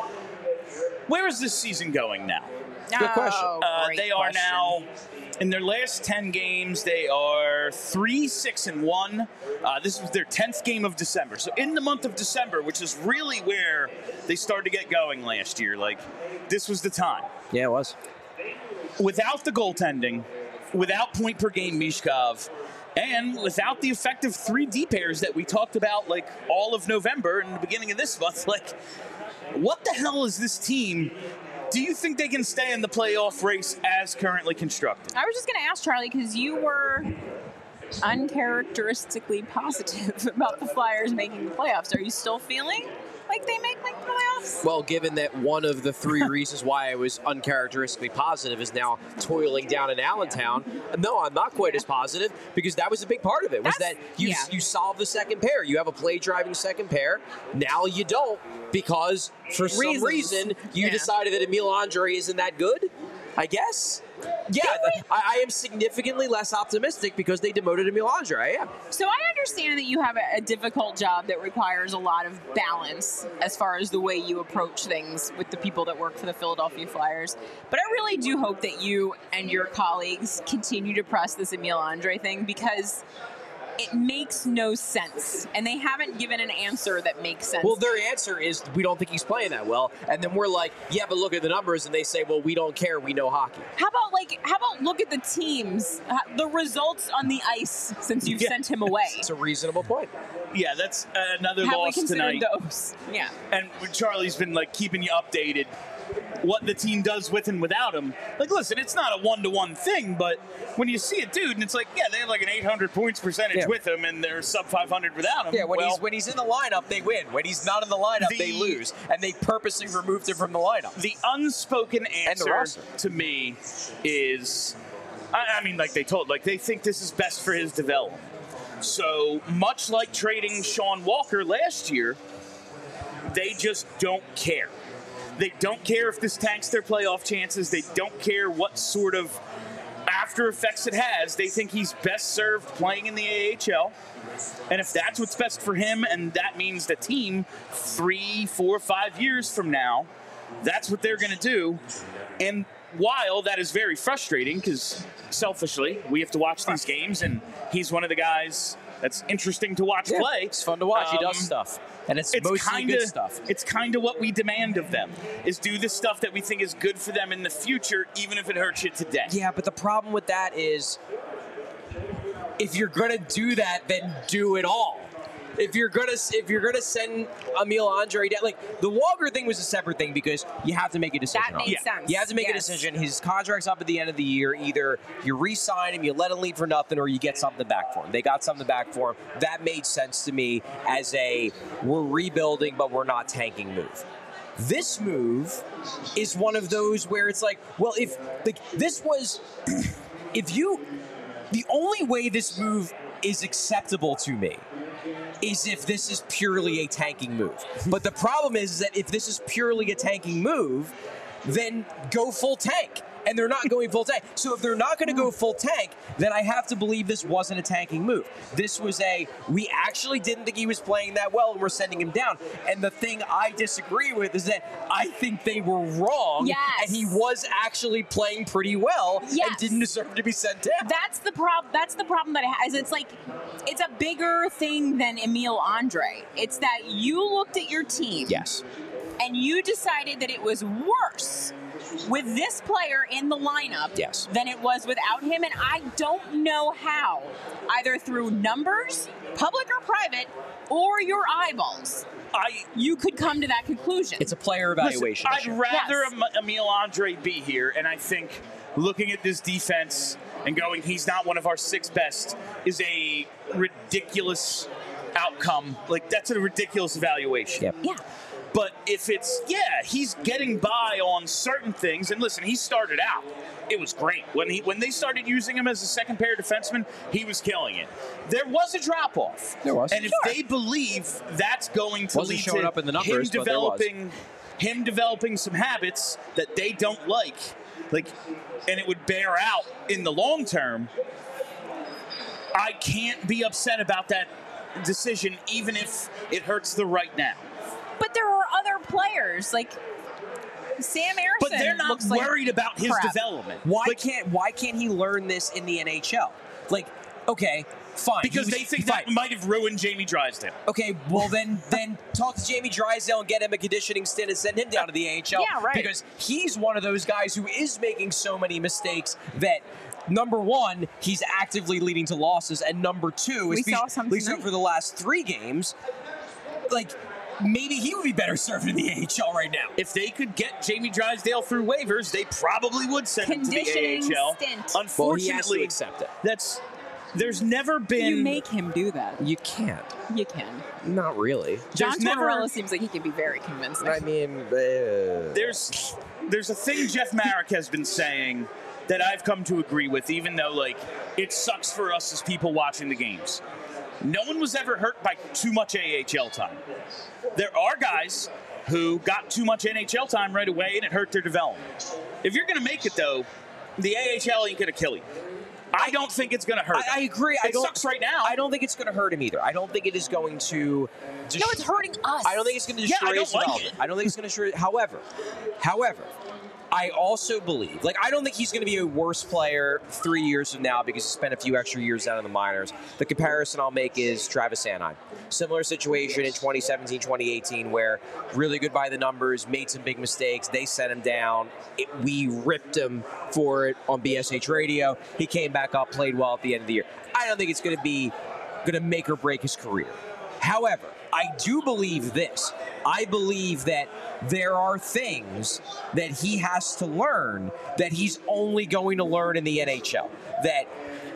where is this season going now? Good question. Oh, Uh, great they are question. now in their last ten games. They are three, six, and one. Uh, this was their tenth game of December. So in the month of December, which is really where they started to get going last year, like this was the time. Yeah, it was. Without the goaltending, without point per game Mishkov, and without the effective three D pairs that we talked about like all of November and the beginning of this month, like what the hell is this team? Do you think they can stay in the playoff race as currently constructed? I was just going to ask Charlie because you were uncharacteristically positive about the Flyers making the playoffs. Are you still feeling like they make like the playoffs? Well, given that one of the three reasons why I was uncharacteristically positive is now toiling down in Allentown, no, I'm not quite as positive because that was a big part of it. Was That's- that you yeah. you solve the second pair? You have a play driving second pair. Now you don't because for some Reasons. reason you Yeah. decided that Emil Andre isn't that good. I guess. Yeah, They- I, I am significantly less optimistic because they demoted Emil Andre. I am. So I understand that you have a, a difficult job that requires a lot of balance as far as the way you approach things with the people that work for the Philadelphia Flyers. But I really do hope that you and your colleagues continue to press this Emil Andre thing because it makes no sense. And they haven't given an answer that makes sense. Well, their answer is we don't think he's playing that well, and then we're like, yeah, but look at the numbers, and they say, well, we don't care, we know hockey. How about like how about look at the teams, uh, the results on the ice since you've Yeah. sent him away? It's a reasonable point. Yeah, that's another Have we loss considered tonight. those? Yeah. And Charlie's been like keeping you updated. what the team does with and without him. Like, listen, it's not a one-to-one thing, but when you see a dude and it's like, yeah, they have like an eight hundred points percentage Yeah. with him and they're sub five hundred without him. Yeah, when well, he's when he's in the lineup, they win. When he's not in the lineup, The- they lose, and they purposely removed him from the lineup. the unspoken answer roster. to me is, I, I mean, like they told, like they think this is best for his development. So much like trading Sean Walker last year, they just don't care. They don't care if this tanks their playoff chances. They don't care what sort of after effects it has. They think he's best served playing in the A H L. And if that's what's best for him, and that means the team three, four, five years from now, that's what they're going to do. And while that is very frustrating, because selfishly, we have to watch these games, and he's one of the guys that's interesting to watch Yeah, play. it's fun to watch. he does Um, stuff, and it's, It's mostly kind good of stuff. it's kind of what we demand of them, is do the stuff that we think is good for them in the future, even if it hurts you today. Yeah, but the problem with that is, if you're gonna do that, then do it all. If you're gonna if you're gonna send Emil Andre down, like the Walker thing was a separate thing because you have to make a decision. That on made it. Yeah. sense. You have to make a Yes. decision. His contract's up at the end of the year. Either you re-sign him, you let him leave for nothing, or you get something back for him. They got something back for him. That made sense to me as a we're rebuilding, but we're not tanking move. This move is one of those where it's like, well, if like this was, if you, the only way this move is acceptable to me is if this is purely a tanking move. But the problem is that if this is purely a tanking move, then go full tank. And they're not going full tank. So if they're not going to go full tank, then I have to believe this wasn't a tanking move. This was a, we actually didn't think he was playing that well and we're sending him down. And the thing I disagree with is that I think they were wrong. Yes. And he was actually playing pretty well and Yes. didn't deserve to be sent down. That's the problem. That's the problem that it has. It's like it's a bigger thing than Emil Andre. It's that you looked at your team Yes. and you decided that it was worse with this player in the lineup Yes. than it was without him. And I don't know how, either through numbers, public or private, or your eyeballs, I you could come to that conclusion. It's a player evaluation Listen, issue. I'd rather Yes. Em- Emil Andre be here, and I think looking at this defense and going, he's not one of our six best, is a ridiculous outcome. Like, that's a ridiculous evaluation. Yep. yeah. But if it's, yeah, he's getting by on certain things, and listen, he started out, it was great. When he when they started using him as a second pair defenseman, he was killing it. There was a drop off. There was. And if Sure. they believe that's going to Wasn't lead showing to up in the numbers, him but there was. developing him developing some habits that they don't like, like, and it would bear out in the long term, I can't be upset about that decision, even if it hurts the right now. But there are other players like Sam Ersson. But they're not looks like worried about his crap. development. Why Like, can't Why can't he learn this in the N H L? Like, okay, fine. because he was- they think fine. that might have ruined Jamie Drysdale. Okay, well then, then talk to Jamie Drysdale and get him a conditioning stint and send him down to the A H L. Yeah, right. Because he's one of those guys who is making so many mistakes that. Number one, he's actively leading to losses, and number two, We especially- saw some at least tonight. for the last three games, like maybe he would be better served in the A H L right now. If they could get Jamie Drysdale through waivers, they probably would send him to the A Conditioning H L. stint. Well, he has to Unfortunately, accept it. that's there's never been You make him do that. You can't. You can. Not really. John There's never- Tortorella seems like he can be very convincing. I mean, uh, there's there's a thing Jeff Marek has been saying that I've come to agree with, even though like it sucks for us as people watching the games. No one was ever hurt by too much A H L time. There are guys who got too much N H L time right away and it hurt their development. If you're going to make it though, the A H L ain't going to kill you. I don't think it's going to hurt. I, I agree. I It don't, sucks right now. I don't think it's going to hurt him either. I don't think it is going to. Just, no, it's hurting us. I don't think it's going to Yeah, destroy I don't his like development. it. I don't think it's going to destroy. However, however, I also believe, like, I don't think he's going to be a worse player three years from now because he spent a few extra years down in the minors. The comparison I'll make is Travis Sanheim. Similar situation in twenty seventeen, twenty eighteen, where really good by the numbers, made some big mistakes. They sent him down. It, we ripped him for it on B S H radio. He came back up, played well at the end of the year. I don't think it's going to be going to make or break his career. However, I do believe this. I believe that there are things that he has to learn that he's only going to learn in the N H L. That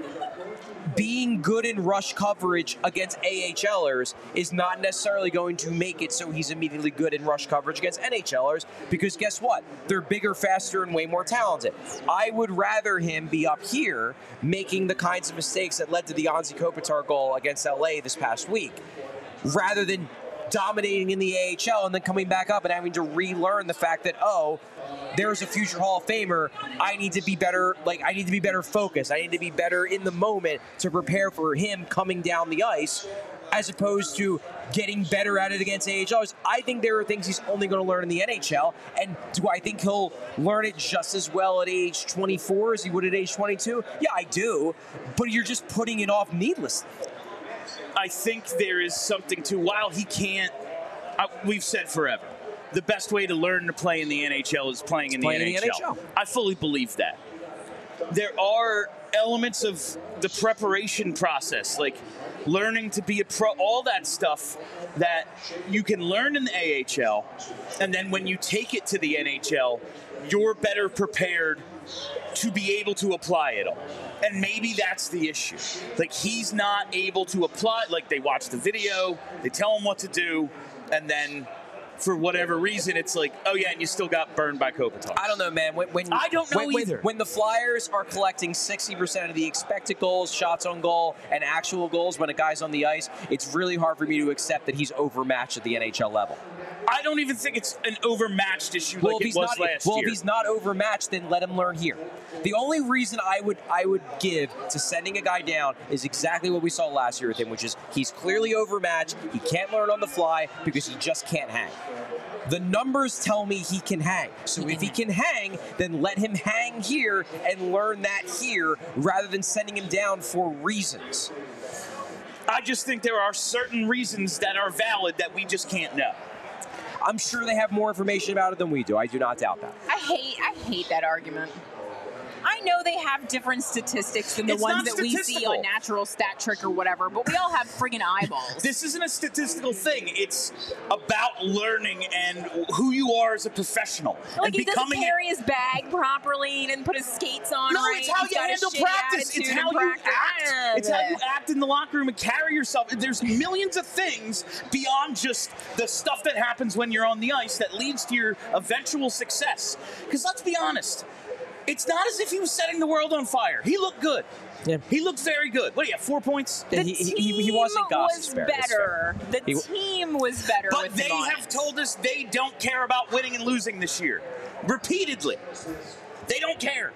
being good in rush coverage against AHLers is not necessarily going to make it so he's immediately good in rush coverage against NHLers, because guess what? They're bigger, faster, and way more talented. I would rather him be up here making the kinds of mistakes that led to the Anze Kopitar goal against L A this past week, rather than dominating in the A H L and then coming back up and having to relearn the fact that, oh, there's a future Hall of Famer. I need to be better, like, I need to be better focused. I need to be better in the moment to prepare for him coming down the ice, as opposed to getting better at it against A H Lers. I think there are things he's only going to learn in the N H L, and do I think he'll learn it just as well at age twenty-four as he would at age twenty-two? Yeah, I do, but you're just putting it off needlessly. I think there is something to, while he can't, uh, we've said forever, the best way to learn to play in the N H L is playing in the, playing N H L. in the N H L. I fully believe that. There are elements of the preparation process, like learning to be a pro, all that stuff that you can learn in the A H L, and then when you take it to the N H L, you're better prepared to be able to apply it all. And maybe that's the issue. Like, he's not able to apply, like, they watch the video, they tell him what to do, and then for whatever reason, it's like, oh yeah, and you still got burned by Kopitar. I don't know, man. When, when I don't know when, either. When, when the Flyers are collecting sixty percent of the expected goals, shots on goal, and actual goals when a guy's on the ice, it's really hard for me to accept that he's overmatched at the N H L level. I don't even think it's an overmatched issue well, like if it he's was not, last well, year. if he's not overmatched, then let him learn here. The only reason I would I would give to sending a guy down is exactly what we saw last year with him, which is he's clearly overmatched. He can't learn on the fly because he just can't hang. The numbers tell me he can hang. So if he can hang, then let him hang here and learn that here rather than sending him down for reasons. I just think there are certain reasons that are valid that we just can't know. I'm sure they have more information about it than we do. I do not doubt that. I hate I hate that argument. I know they have different statistics than the It's ones not that we see statistical. on Natural Stat Trick or whatever, but we all have friggin' eyeballs. This isn't a statistical thing. It's about learning and who you are as a professional. Like, and he doesn't becoming carry his bag properly, he didn't put his skates on No, right. it's how he's you got a handle shitty practice. It's attitude how in you practice. act. It's how you act in the locker room and carry yourself. There's millions of things beyond just the stuff that happens when you're on the ice that leads to your eventual success. Because let's be honest, it's not as if he was setting the world on fire. He looked good. Yeah. He looked very good. What do you have, four points? The he, he, team he wasn't was Goss's fair, better. The He- team was better But with they him on have it. told us they don't care about winning and losing this year. Repeatedly. They don't care.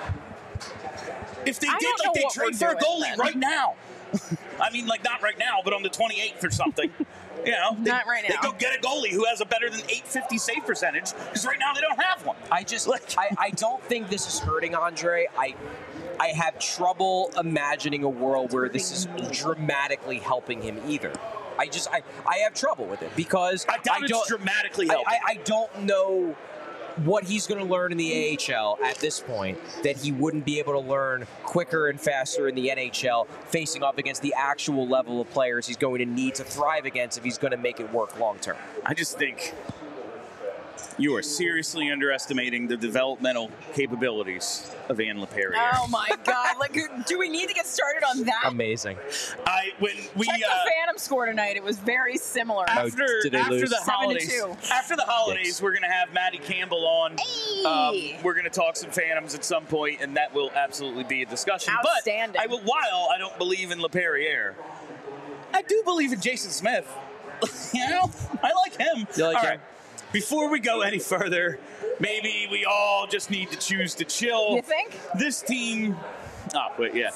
If they I did, don't like, know they what trade we're for a doing goalie then. right now. I mean, like, not right now, but on the twenty-eighth or something. You know, they, Not right They now. go get a goalie who has a better than eight fifty save percentage, because right now they don't have one. I just, Like- I, I don't think this is hurting Andre. I, I have trouble imagining a world where this is dramatically helping him either. I just, I, I have trouble with it because I doubt it's don't, dramatically I, helping. I, I don't know what he's going to learn in the A H L at this point that he wouldn't be able to learn quicker and faster in the N H L, facing off against the actual level of players he's going to need to thrive against if he's going to make it work long term. I just think you are seriously underestimating the developmental capabilities of Anne Laperriere. Oh my God! Like, do we need to get started on that? Amazing. I when we Check the uh, Phantom score tonight. It was very similar. after did they after lose? the Seven to holidays, two. after the holidays, Yikes. we're gonna have Maddie Campbell on. Hey! Um, we're gonna talk some Phantoms at some point, and that will absolutely be a discussion. Outstanding. But I will, while I don't believe in Laperriere, I do believe in Jason Smith. You know, I like him. You like all him? right. Before we go any further, maybe we all just need to choose to chill. You think? This team. Oh, wait, yeah.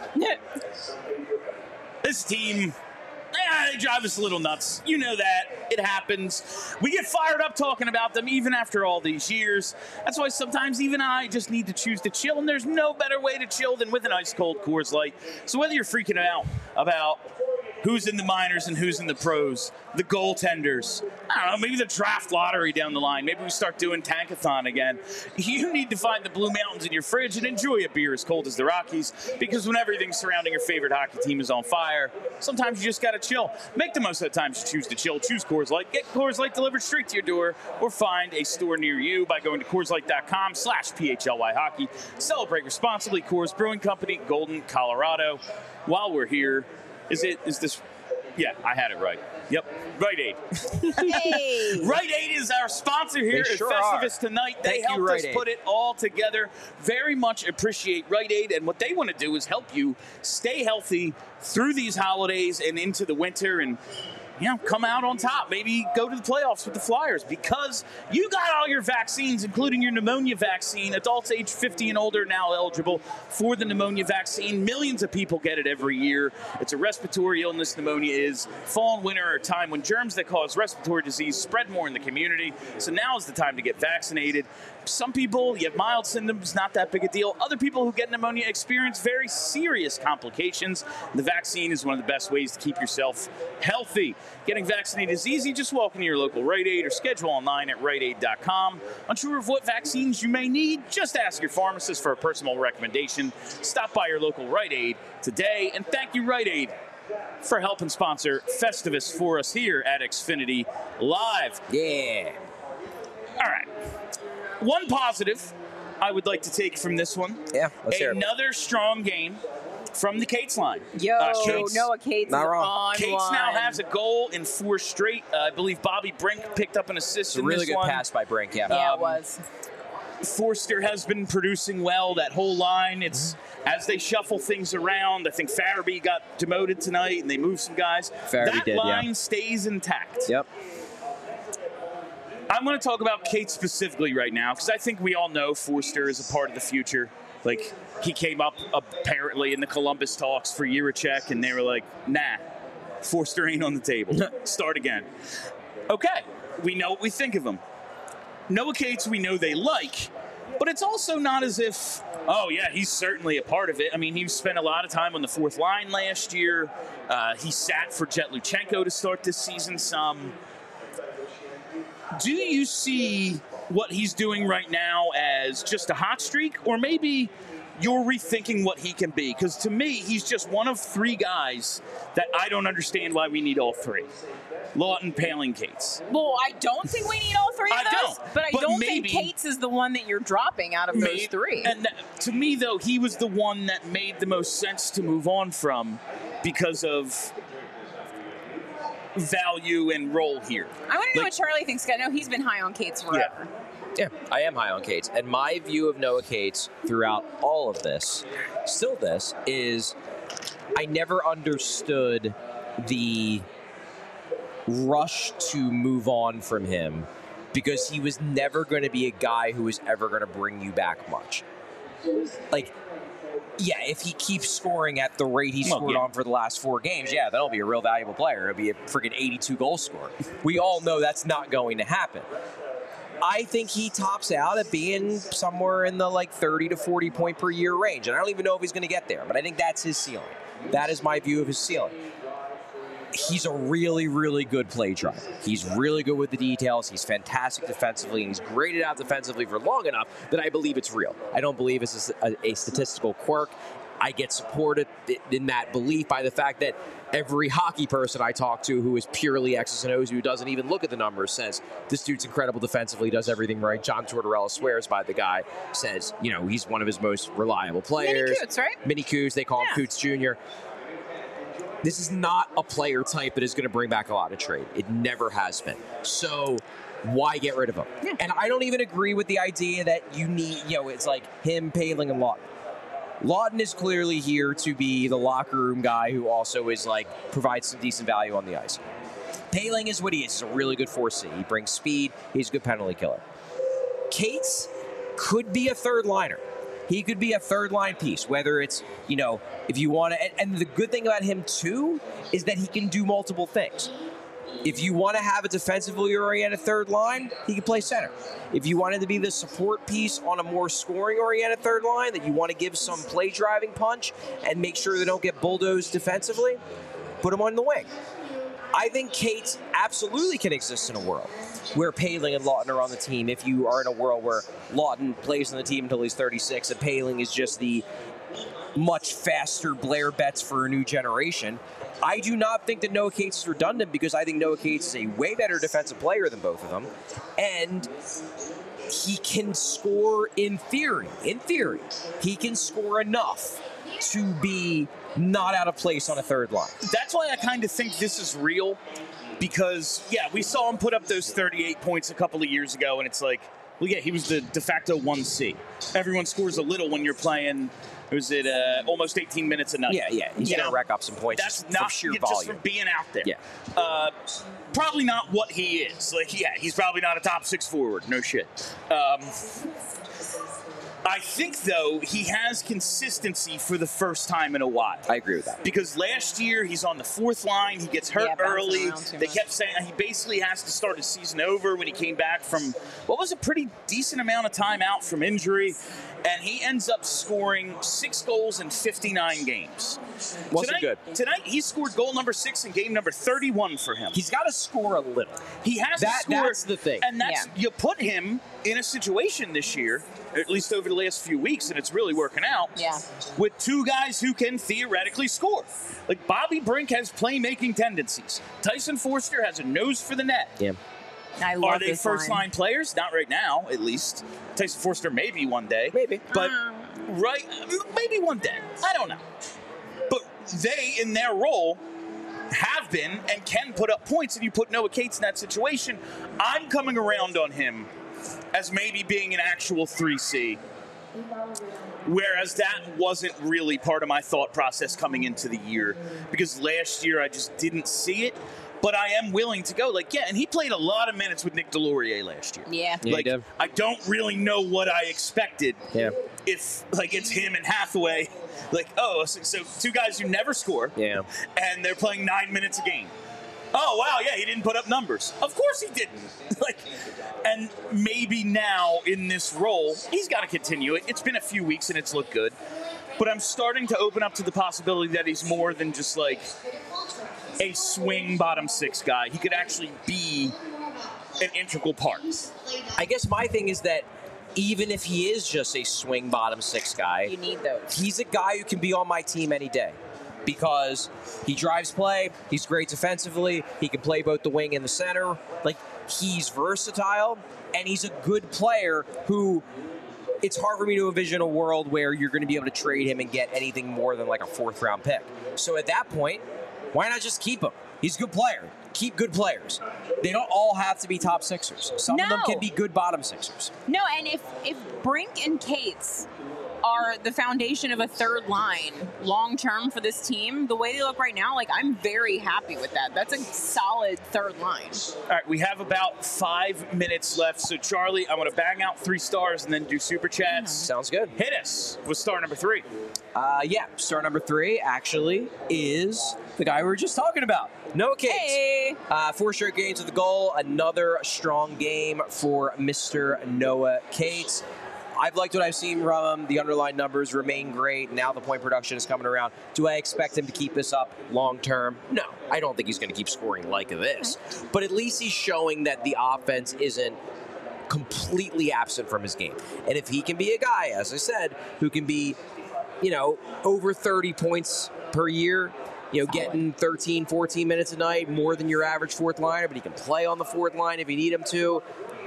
This team, eh, they drive us a little nuts. You know that. It happens. We get fired up talking about them even after all these years. That's why sometimes even I just need to choose to chill, and there's no better way to chill than with an ice-cold Coors Light. So whether you're freaking out about Who's in the minors and who's in the pros? The goaltenders. I don't know, maybe the draft lottery down the line. Maybe we start doing Tankathon again. You need to find the Blue Mountains in your fridge and enjoy a beer as cold as the Rockies, because when everything surrounding your favorite hockey team is on fire, sometimes you just got to chill. Make the most of the times you choose to chill. Choose Coors Light. Get Coors Light delivered straight to your door, or find a store near you by going to Coors Light dot com slash P H L Y hockey. Celebrate responsibly. Coors Brewing Company, Golden, Colorado. While we're here, Is it? Is this? Yeah, I had it right. Yep, Rite Aid. Hey. Rite Aid is our sponsor here They at sure Festivus are. tonight. They Thank you, helped Rite us Aid. put it all together. Very much appreciate Rite Aid, and what they want to do is help you stay healthy through these holidays and into the winter, and you know, come out on top. Maybe go to the playoffs with the Flyers, because you got all your vaccines, including your pneumonia vaccine. Adults age fifty and older now eligible for the pneumonia vaccine. Millions of people get it every year. It's a respiratory illness. Pneumonia is. Fall and winter are a time when germs that cause respiratory disease spread more in the community. So now is the time to get vaccinated. Some people, you have mild symptoms, not that big a deal. Other people who get pneumonia experience very serious complications. The vaccine is one of the best ways to keep yourself healthy. Getting vaccinated is easy. Just walk into your local Rite Aid or schedule online at Rite Aid dot com. Unsure of what vaccines you may need? Just ask your pharmacist for a personal recommendation. Stop by your local Rite Aid today. And thank you, Rite Aid, for helping sponsor Festivus for us here at Xfinity Live. Yeah. All right. One positive I would like to take from this one. Yeah, let's hear it. Another strong game from the Cates line. Yo, Uh, Cates- Noah Cates Not is wrong. on Cates one. now has a goal in four straight. Uh, I believe Bobby Brink picked up an assist It's a in really this good one. pass by Brink, yeah. Yeah, Um, it was. Forster has been producing well, that whole line. It's as they shuffle things around. I think Farabee got demoted tonight, and they moved some guys. Farabee that did, yeah. line stays intact. Yep. I'm going to talk about Kate specifically right now, because I think we all know Forster is a part of the future. Like, he came up apparently in the Columbus talks for Jiricek, and they were like, nah, Forster ain't on the table. Start again. Okay, we know what we think of him. Noah Cates we know they like, but it's also not as if, oh, yeah, he's certainly a part of it. I mean, he spent a lot of time on the fourth line last year. Uh, he sat for Jet Luchenko to start this season some. Do you see what he's doing right now as just a hot streak, or maybe you're rethinking what he can be? Because to me, he's just one of three guys that I don't understand why we need all three. Lawton, Paling, Cates. Well, I don't think we need all three of I those, don't, but I but don't maybe- think Cates is the one that you're dropping out of those Made- three. And that, to me, though, he was the one that made the most sense to move on from because of value and role here. I want to know Like- what Charlie thinks. I know he's been high on Cates forever. Yeah, I am high on Cates. And my view of Noah Cates throughout all of this, still this, is I never understood the rush to move on from him, because he was never going to be a guy who was ever going to bring you back much. Like, yeah, if he keeps scoring at the rate he Well, scored yeah. on for the last four games, yeah, that'll be a real valuable player. It'll be a freaking eighty-two goal scorer. We all know that's not going to happen. I think he tops out at being somewhere in the like thirty to forty point per year range. And I don't even know if he's going to get there, but I think that's his ceiling. That is my view of his ceiling. He's a really, really good play driver. He's really good with the details. He's fantastic defensively, and he's graded out defensively for long enough that I believe it's real. I don't believe it's a, a statistical quirk. I get supported in that belief by the fact that every hockey person I talk to who is purely X's and O's, who doesn't even look at the numbers, says this dude's incredible defensively, does everything right. John Tortorella swears by the guy, says, you know, he's one of his most reliable players. Mini Coots, right? Mini Coots, they call Yeah. him Coots Junior This is not a player type that is going to bring back a lot of trade. It never has been. So why get rid of him? Yeah. And I don't even agree with the idea that you need, you know, it's like him, Paling, and Lawton. Lawton is clearly here to be the locker room guy who also is like provides some decent value on the ice. Paling is what he is. He's a really good four C. He brings speed. He's a good penalty killer. Cates could be a third liner. He could be a third line piece, whether it's, you know, if you want to. And, and the good thing about him, too, is that he can do multiple things. If you want to have a defensively oriented third line, he can play center. If you wanted to be the support piece on a more scoring oriented third line, that you want to give some play driving punch and make sure they don't get bulldozed defensively, put him on the wing. I think Cates absolutely can exist in a world where Poehling and Laughton are on the team if you are in a world where Laughton plays on the team until he's thirty-six and Poehling is just the much faster Blair Betts for a new generation. I do not think that Noah Cates is redundant because I think Noah Cates is a way better defensive player than both of them. And he can score in theory. In theory, he can score enough to be not out of place on a third line. That's why I kind of think this is real because, yeah, we saw him put up those thirty-eight points a couple of years ago, and it's like, well, yeah, he was the de facto one C. Everyone scores a little when you're playing, was it uh, almost eighteen minutes a night? Yeah, yeah. He's going to rack up some points That's just not, from sheer just volume. from being out there. Yeah. Uh, probably not what he is. Like, yeah, he's probably not a top six forward. No shit. Um, I think, though, he has consistency for the first time in a while. I agree with that. Because last year, he's on the fourth line. He gets hurt Yeah, bouncing early. around too They much. kept saying he basically has to start his season over when he came back from what was a pretty decent amount of time out from injury. And he ends up scoring six goals in fifty-nine games. Wasn't tonight, good. Tonight, he scored goal number six in game number thirty-one for him. He's got to score a little. He has That- to score. that's the thing. And that's Yeah. you put him in a situation this year, at least over the last few weeks, and it's really working out. Yeah. With two guys who can theoretically score. Like Bobby Brink has playmaking tendencies. Tyson Forster has a nose for the net. Yeah. I love Are they this first line. line players? Not right now, at least. Tyson Forster maybe one day. Maybe. But Uh. right maybe one day. I don't know. But they in their role have been and can put up points, and you put Noah Cates in that situation. I'm coming around on him as maybe being an actual three C. Whereas that wasn't really part of my thought process coming into the year. Because last year I just didn't see it. But I am willing to go. Like, yeah, and he played a lot of minutes with Nick Delorier last year. Yeah. Yeah, Like, he did. I don't really know what I expected. Yeah. If, like, it's him and Hathaway. Like, oh, so, so two guys who never score. Yeah. And they're playing nine minutes a game. Oh, wow, yeah, he didn't put up numbers. Of course he didn't. Like, and maybe now in this role, he's got to continue it. It's been a few weeks and it's looked good. But I'm starting to open up to the possibility that he's more than just like a swing bottom six guy. He could actually be an integral part. I guess my thing is that even if he is just a swing bottom six guy, You need those. he's a guy who can be on my team any day because he drives play, he's great defensively, he can play both the wing and the center. Like, he's versatile, and he's a good player who it's hard for me to envision a world where you're going to be able to trade him and get anything more than like a fourth round pick. So at that point, why not just keep him? He's a good player. Keep good players. They don't all have to be top sixers. Some of them No. can be good bottom sixers. No, and if if Brink and Cates are the foundation of a third line long term for this team, the way they look right now, like I'm very happy with that. That's a solid third line. All right, we have about five minutes left. So, Charlie, I want to bang out three stars and then do super chats. Sounds good. Hit us with star number three. Uh, yeah, star number three actually is the guy we were just talking about, Noah Cates. Hey, Uh, four straight games with a goal. Another strong game for Mister Noah Cates. I've liked what I've seen from him. The underlying numbers remain great. Now the point production is coming around. Do I expect him to keep this up long term? No. I don't think he's going to keep scoring like this. But at least he's showing that the offense isn't completely absent from his game. And if he can be a guy, as I said, who can be, you know, over thirty points per year, you know, getting thirteen, fourteen minutes a night, more than your average fourth liner, but he can play on the fourth line if you need him to.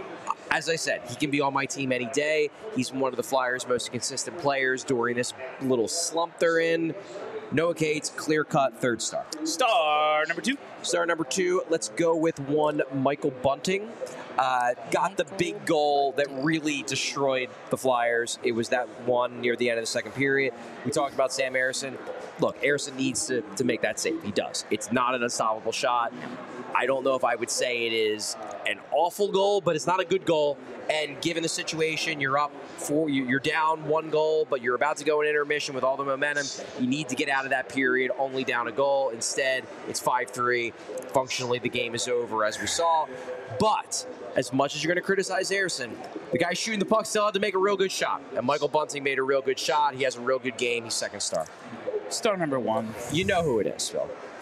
As I said, he can be on my team any day. He's one of the Flyers' most consistent players during this little slump they're in. Noah Cates, clear-cut third star. Star number two. Star number two, let's go with one Michael Bunting. Uh, got the big goal that really destroyed the Flyers. It was that one near the end of the second period. We talked about Sam Ersson. Look, Ersson needs to, to make that save. He does. It's not an unstoppable shot. I don't know if I would say it is an awful goal, but it's not a good goal. And given the situation, you're up four, you're down one goal, but you're about to go in intermission with all the momentum. You need to get out of that period, only down a goal. Instead, it's five three. Functionally, the game is over, as we saw. But as much as you're going to criticize Ersson, the guy shooting the puck still had to make a real good shot. And Michael Bunting made a real good shot. He has a real good game. He's second star. Star number one. You know who it is, Phil.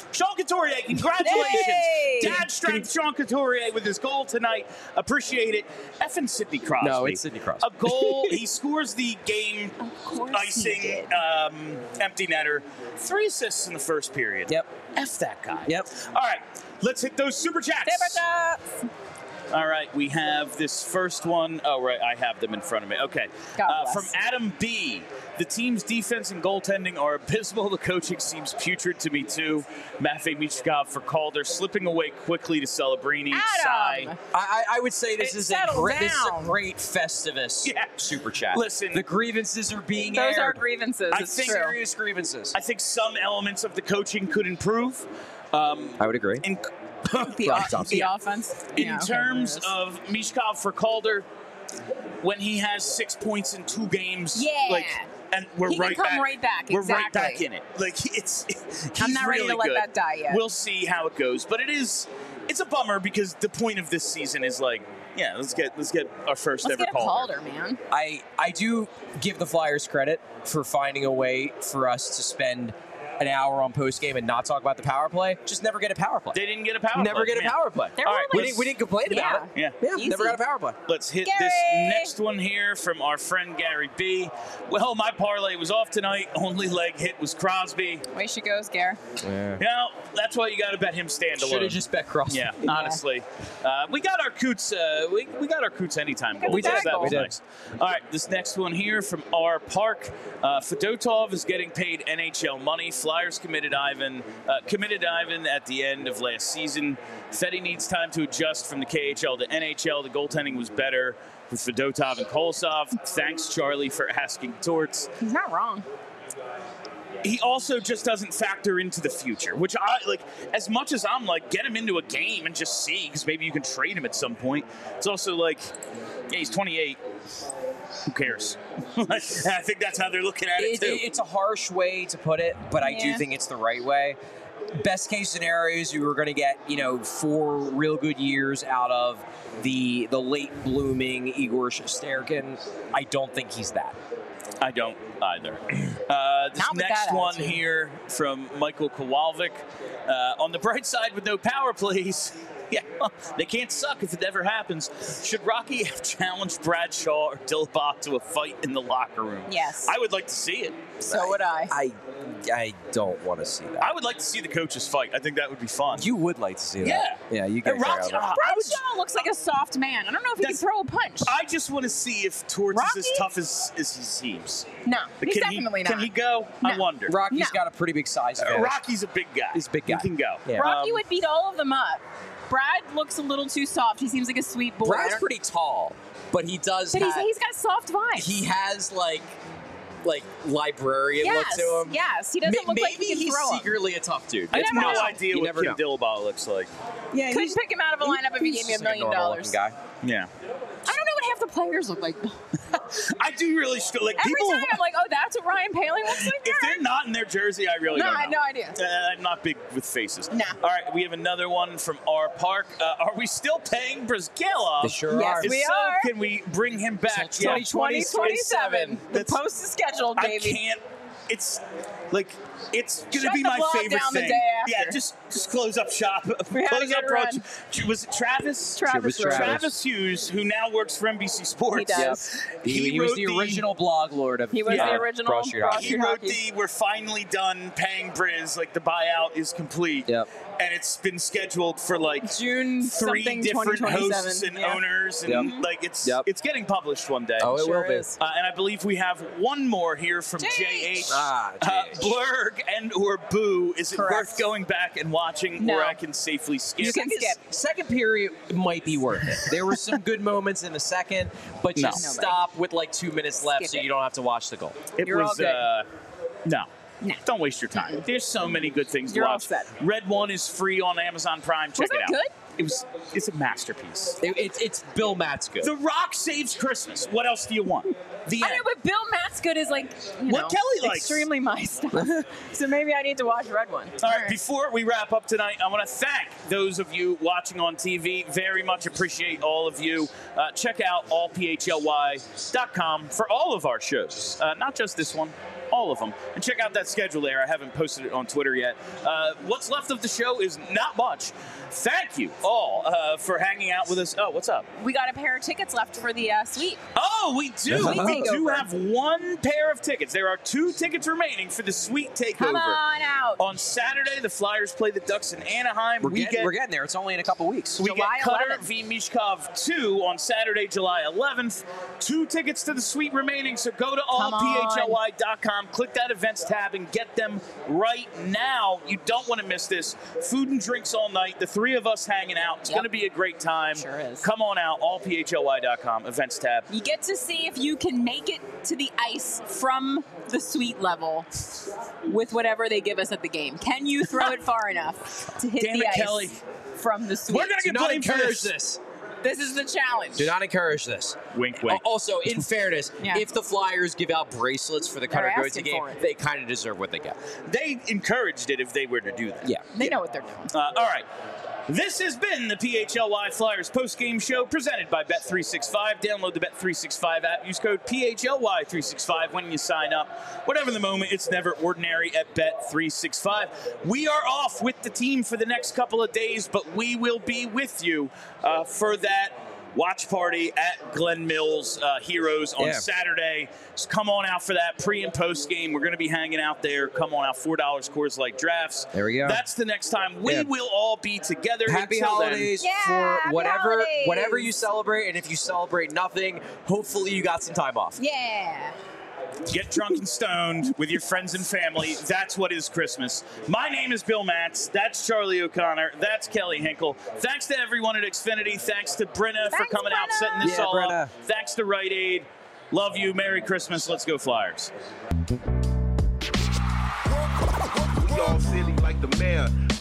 Sean Couturier, congratulations. Yay! Dad strength Sean Couturier with his goal tonight. Appreciate it. Effing Sidney Crosby. No, it's Sidney Crosby. A goal. He scores the game course he icing did. um, empty netter. Three assists in the first period. Yep. F that guy. Yep. All right, let's hit those super chats. Super chats. All right, we have this first one. Oh, right, I have them in front of me. Okay. God Uh, bless. from Adam B. The team's defense and goaltending are abysmal. The coaching seems putrid to me, too. Matvei Michkov for Calder, slipping away quickly to Celebrini. Adam! Sigh. I, I I would say this Hey, is a settle great, this is a down. great Festivus Yeah. super chat. Listen. the grievances are being Those are aired. grievances. I it's think- true. Serious grievances. I think some elements of the coaching could improve. Um, I would agree. in The, Rob o- Thompson. the offense. in Yeah, okay, terms there it is. of Mishkov for Calder, when he has six points in two games, Yeah. like, and we're He can right come back. right back, We're right exactly. back in it. Like it's. He's I'm not ready really to let good. that die yet. We'll see how it goes, but it is. It's a bummer because the point of this season is like, yeah, let's get let's get our 1st Let's ever get a Calder. Calder, man. I I do give the Flyers credit for finding a way for us to spend an hour on post game and not talk about the power play. Just never get a power play. They didn't get a power. Never play. get a Yeah. power play. There All were right, We like- didn't, we didn't complain about it. Yeah. Yeah, Easy. never got a power play. Let's hit Gary! this next one here from our friend Gary B. Well, my parlay was off tonight. Only leg hit was Crosby. Way she goes, Gare. Yeah. You know, that's why you got to bet him stand Should alone. have just bet Crosby. Yeah, honestly, uh, we got our Coots. Uh, we, we got our Coots anytime. got goals. the That tag was goal. nice. All right, this next one here from R Park. Uh, Fedotov is getting paid N H L money. Flyers committed Ivan. Uh, committed Ivan at the end of last season. Feddy needs time to adjust from the K H L to N H L. The goaltending was better with Fedotov and Kolosov. Thanks, Charlie, for asking Torts. He's not wrong. He also just doesn't factor into the future, which I like. As much as I'm like, get him into a game and just see, because maybe you can trade him at some point. It's also like, yeah, he's twenty-eight. Who cares? I think that's how they're looking at it It, too. it- it's a harsh way to put it, but I do Yeah. think it's the right way. Best case scenarios, you were going to get, you know, four real good years out of the the late blooming Igor Shesterkin. I don't think he's that. I don't either. Uh, this Not with next that one attitude. here from Michael Kowalczyk. Uh, on the bright side, with no power plays, yeah, well, they can't suck if it ever happens. Should Rocky have challenged Bradshaw or Dillbach to a fight in the locker room? Yes. I would like to see it. So would I. I I don't want to see that. I would like to see the coaches fight. I think that would be fun. You would like to see that. Yeah. Yeah, you Uh, guys Rocky- are uh, out. I would- Bradshaw looks like a soft man. I don't know if he can That's- throw a punch. I just want to see if Torts is as Rocky? tough as, as he seems. no, But he's can definitely he, not. Can he go? I No. wonder. Rocky's No. got a pretty big size Uh, advantage. Rocky's a big guy. He's a big guy. He can go. Yeah. Rocky Um, would beat all of them up. Brad looks a little too soft. He seems like a sweet boy. Brad's pretty tall, but he does but he's, have, he's got soft vibes. he has like like librarian yes, look to him. yes. He doesn't Ma- look Maybe like he can he's throw 'em. secretly a tough dude. I have never no know. idea You what never Kim know. Dilbaugh looks like. Yeah, Couldn't pick him out of a lineup if he gave me a just like million normal dollars. looking guy. Yeah. I don't know what half the players look like. I do really st- like Every people. time I'm like, oh, that's what Ryan Paley looks like. if they're not in their jersey, I really No, don't I know. had no idea. Uh, I'm not big with faces. Nah. All right, we have another one from R Park. Uh, are we still paying Brizgalov? They sure Yes, are. If we so, are. can we bring him back? Till Yeah. twenty twenty-seven. The That's- post is scheduled, I baby. can't. It's like it's gonna Shut be the my vlog favorite down the thing. day Yeah, after. just just close up shop. We had a close good up run. Roach. Was it Travis? Travis It was Roach. Travis Hughes, who now works for N B C Sports. He does. He, he was wrote the original blog lord of He was Yeah. the uh, original Broad Street Broad Hockey. He Street wrote Hockey. the "We're finally done paying Briz. Like the buyout is complete." Yep. And it's been scheduled for like June three something different twenty twenty-seven. hosts and yeah. owners, and Yep. like it's Yep. it's getting published one day. Oh, it Sure will be. is. Uh, and I believe we have one more here from J J H. H. Ah, Uh, J H. Blurg and or Boo. Is it Correct. worth going back and watching, No. or I can safely skip? You can Second- skip. Second period might be worth it. There were some good moments in the second, but No. just Nobody. stop with like two minutes left Skip so it. you don't have to watch the goal. It You're all was good. uh, no. No. Don't waste your time. There's so many good things You're to all watch. set. Red One is free on Amazon Prime. Check Was it that out. good? It was. It's a masterpiece. It, it's it's Bill Matt's good. The Rock saves Christmas. What else do you want? The I end. know, but Bill Matsgood is like, you What know, Kelly likes. extremely my stuff. So maybe I need to watch Red One. All right, before we wrap up tonight, I want to thank those of you watching on T V. Very much appreciate all of you. Uh, check out all P H L Y dot com for all of our shows, uh, not just this one. all of them. And check out that schedule there. I haven't posted it on Twitter yet. Uh, what's left of the show is not much. Thank you all uh, for hanging out with us. Oh, what's up? We got a pair of tickets left for the uh, suite. Oh, we do. Sweet We do takeover. have one pair of tickets. There are two tickets remaining for the Sweet Takeover. Come on out. On Saturday, the Flyers play the Ducks in Anaheim. We're, we getting, get we're getting there. It's only in a couple weeks. we July get Cutter eleventh. v. Mishkov two on Saturday, July eleventh. Two tickets to the suite remaining, so go to all Come P on. H L Y dot com, click that events tab, and get them right now. You don't want to miss this. Food and drinks all night. The three of us hanging out. It's Yep. going to be a great time. Sure is. Come on out, all P H L Y dot com, events tab. You get to see if you can make it to the ice from the suite level with whatever they give us at the game. Can you throw it far enough to hit Damn the it, ice Kelly. from the suite? We're going to Do get not blamed for encourage this. this. This is the challenge. Do not encourage this. Wink, wink. Al- Also, in fairness, Yeah. if the Flyers give out bracelets for the They're Cutter Goatee asking game, for it. they kind of deserve what they get. They encouraged it if they were to do that. Yeah. They know what they're doing. Uh, all right. This has been the P H L Y Flyers post-game show presented by Bet three sixty-five. Download the Bet three sixty-five app. Use code P H L Y three sixty-five when you sign up. Whatever the moment, it's never ordinary at Bet three sixty-five. We are off with the team for the next couple of days, but we will be with you uh, for that watch party at Glen Mills uh, Heroes on Yeah. Saturday. So come on out for that pre and post game. We're going to be hanging out there. Come on out, four dollars Coors Light drafts. There we go. That's the next time we Yeah. will all be together. Happy Until then, holidays Yeah, for happy whatever holidays. whatever you celebrate, and if you celebrate nothing, hopefully you got some time off. Yeah. get drunk and stoned with your friends and family. That's what is Christmas. My name is Bill Matz. That's Charlie O'Connor. That's Kelly Hinkle. Thanks to everyone at Xfinity. Thanks to Brenna for Thanks, coming out, Brenna. setting this Yeah, all Brenna. up. Thanks to Rite Aid. Love you. Merry Christmas. Let's go Flyers. We all silly like the mayor.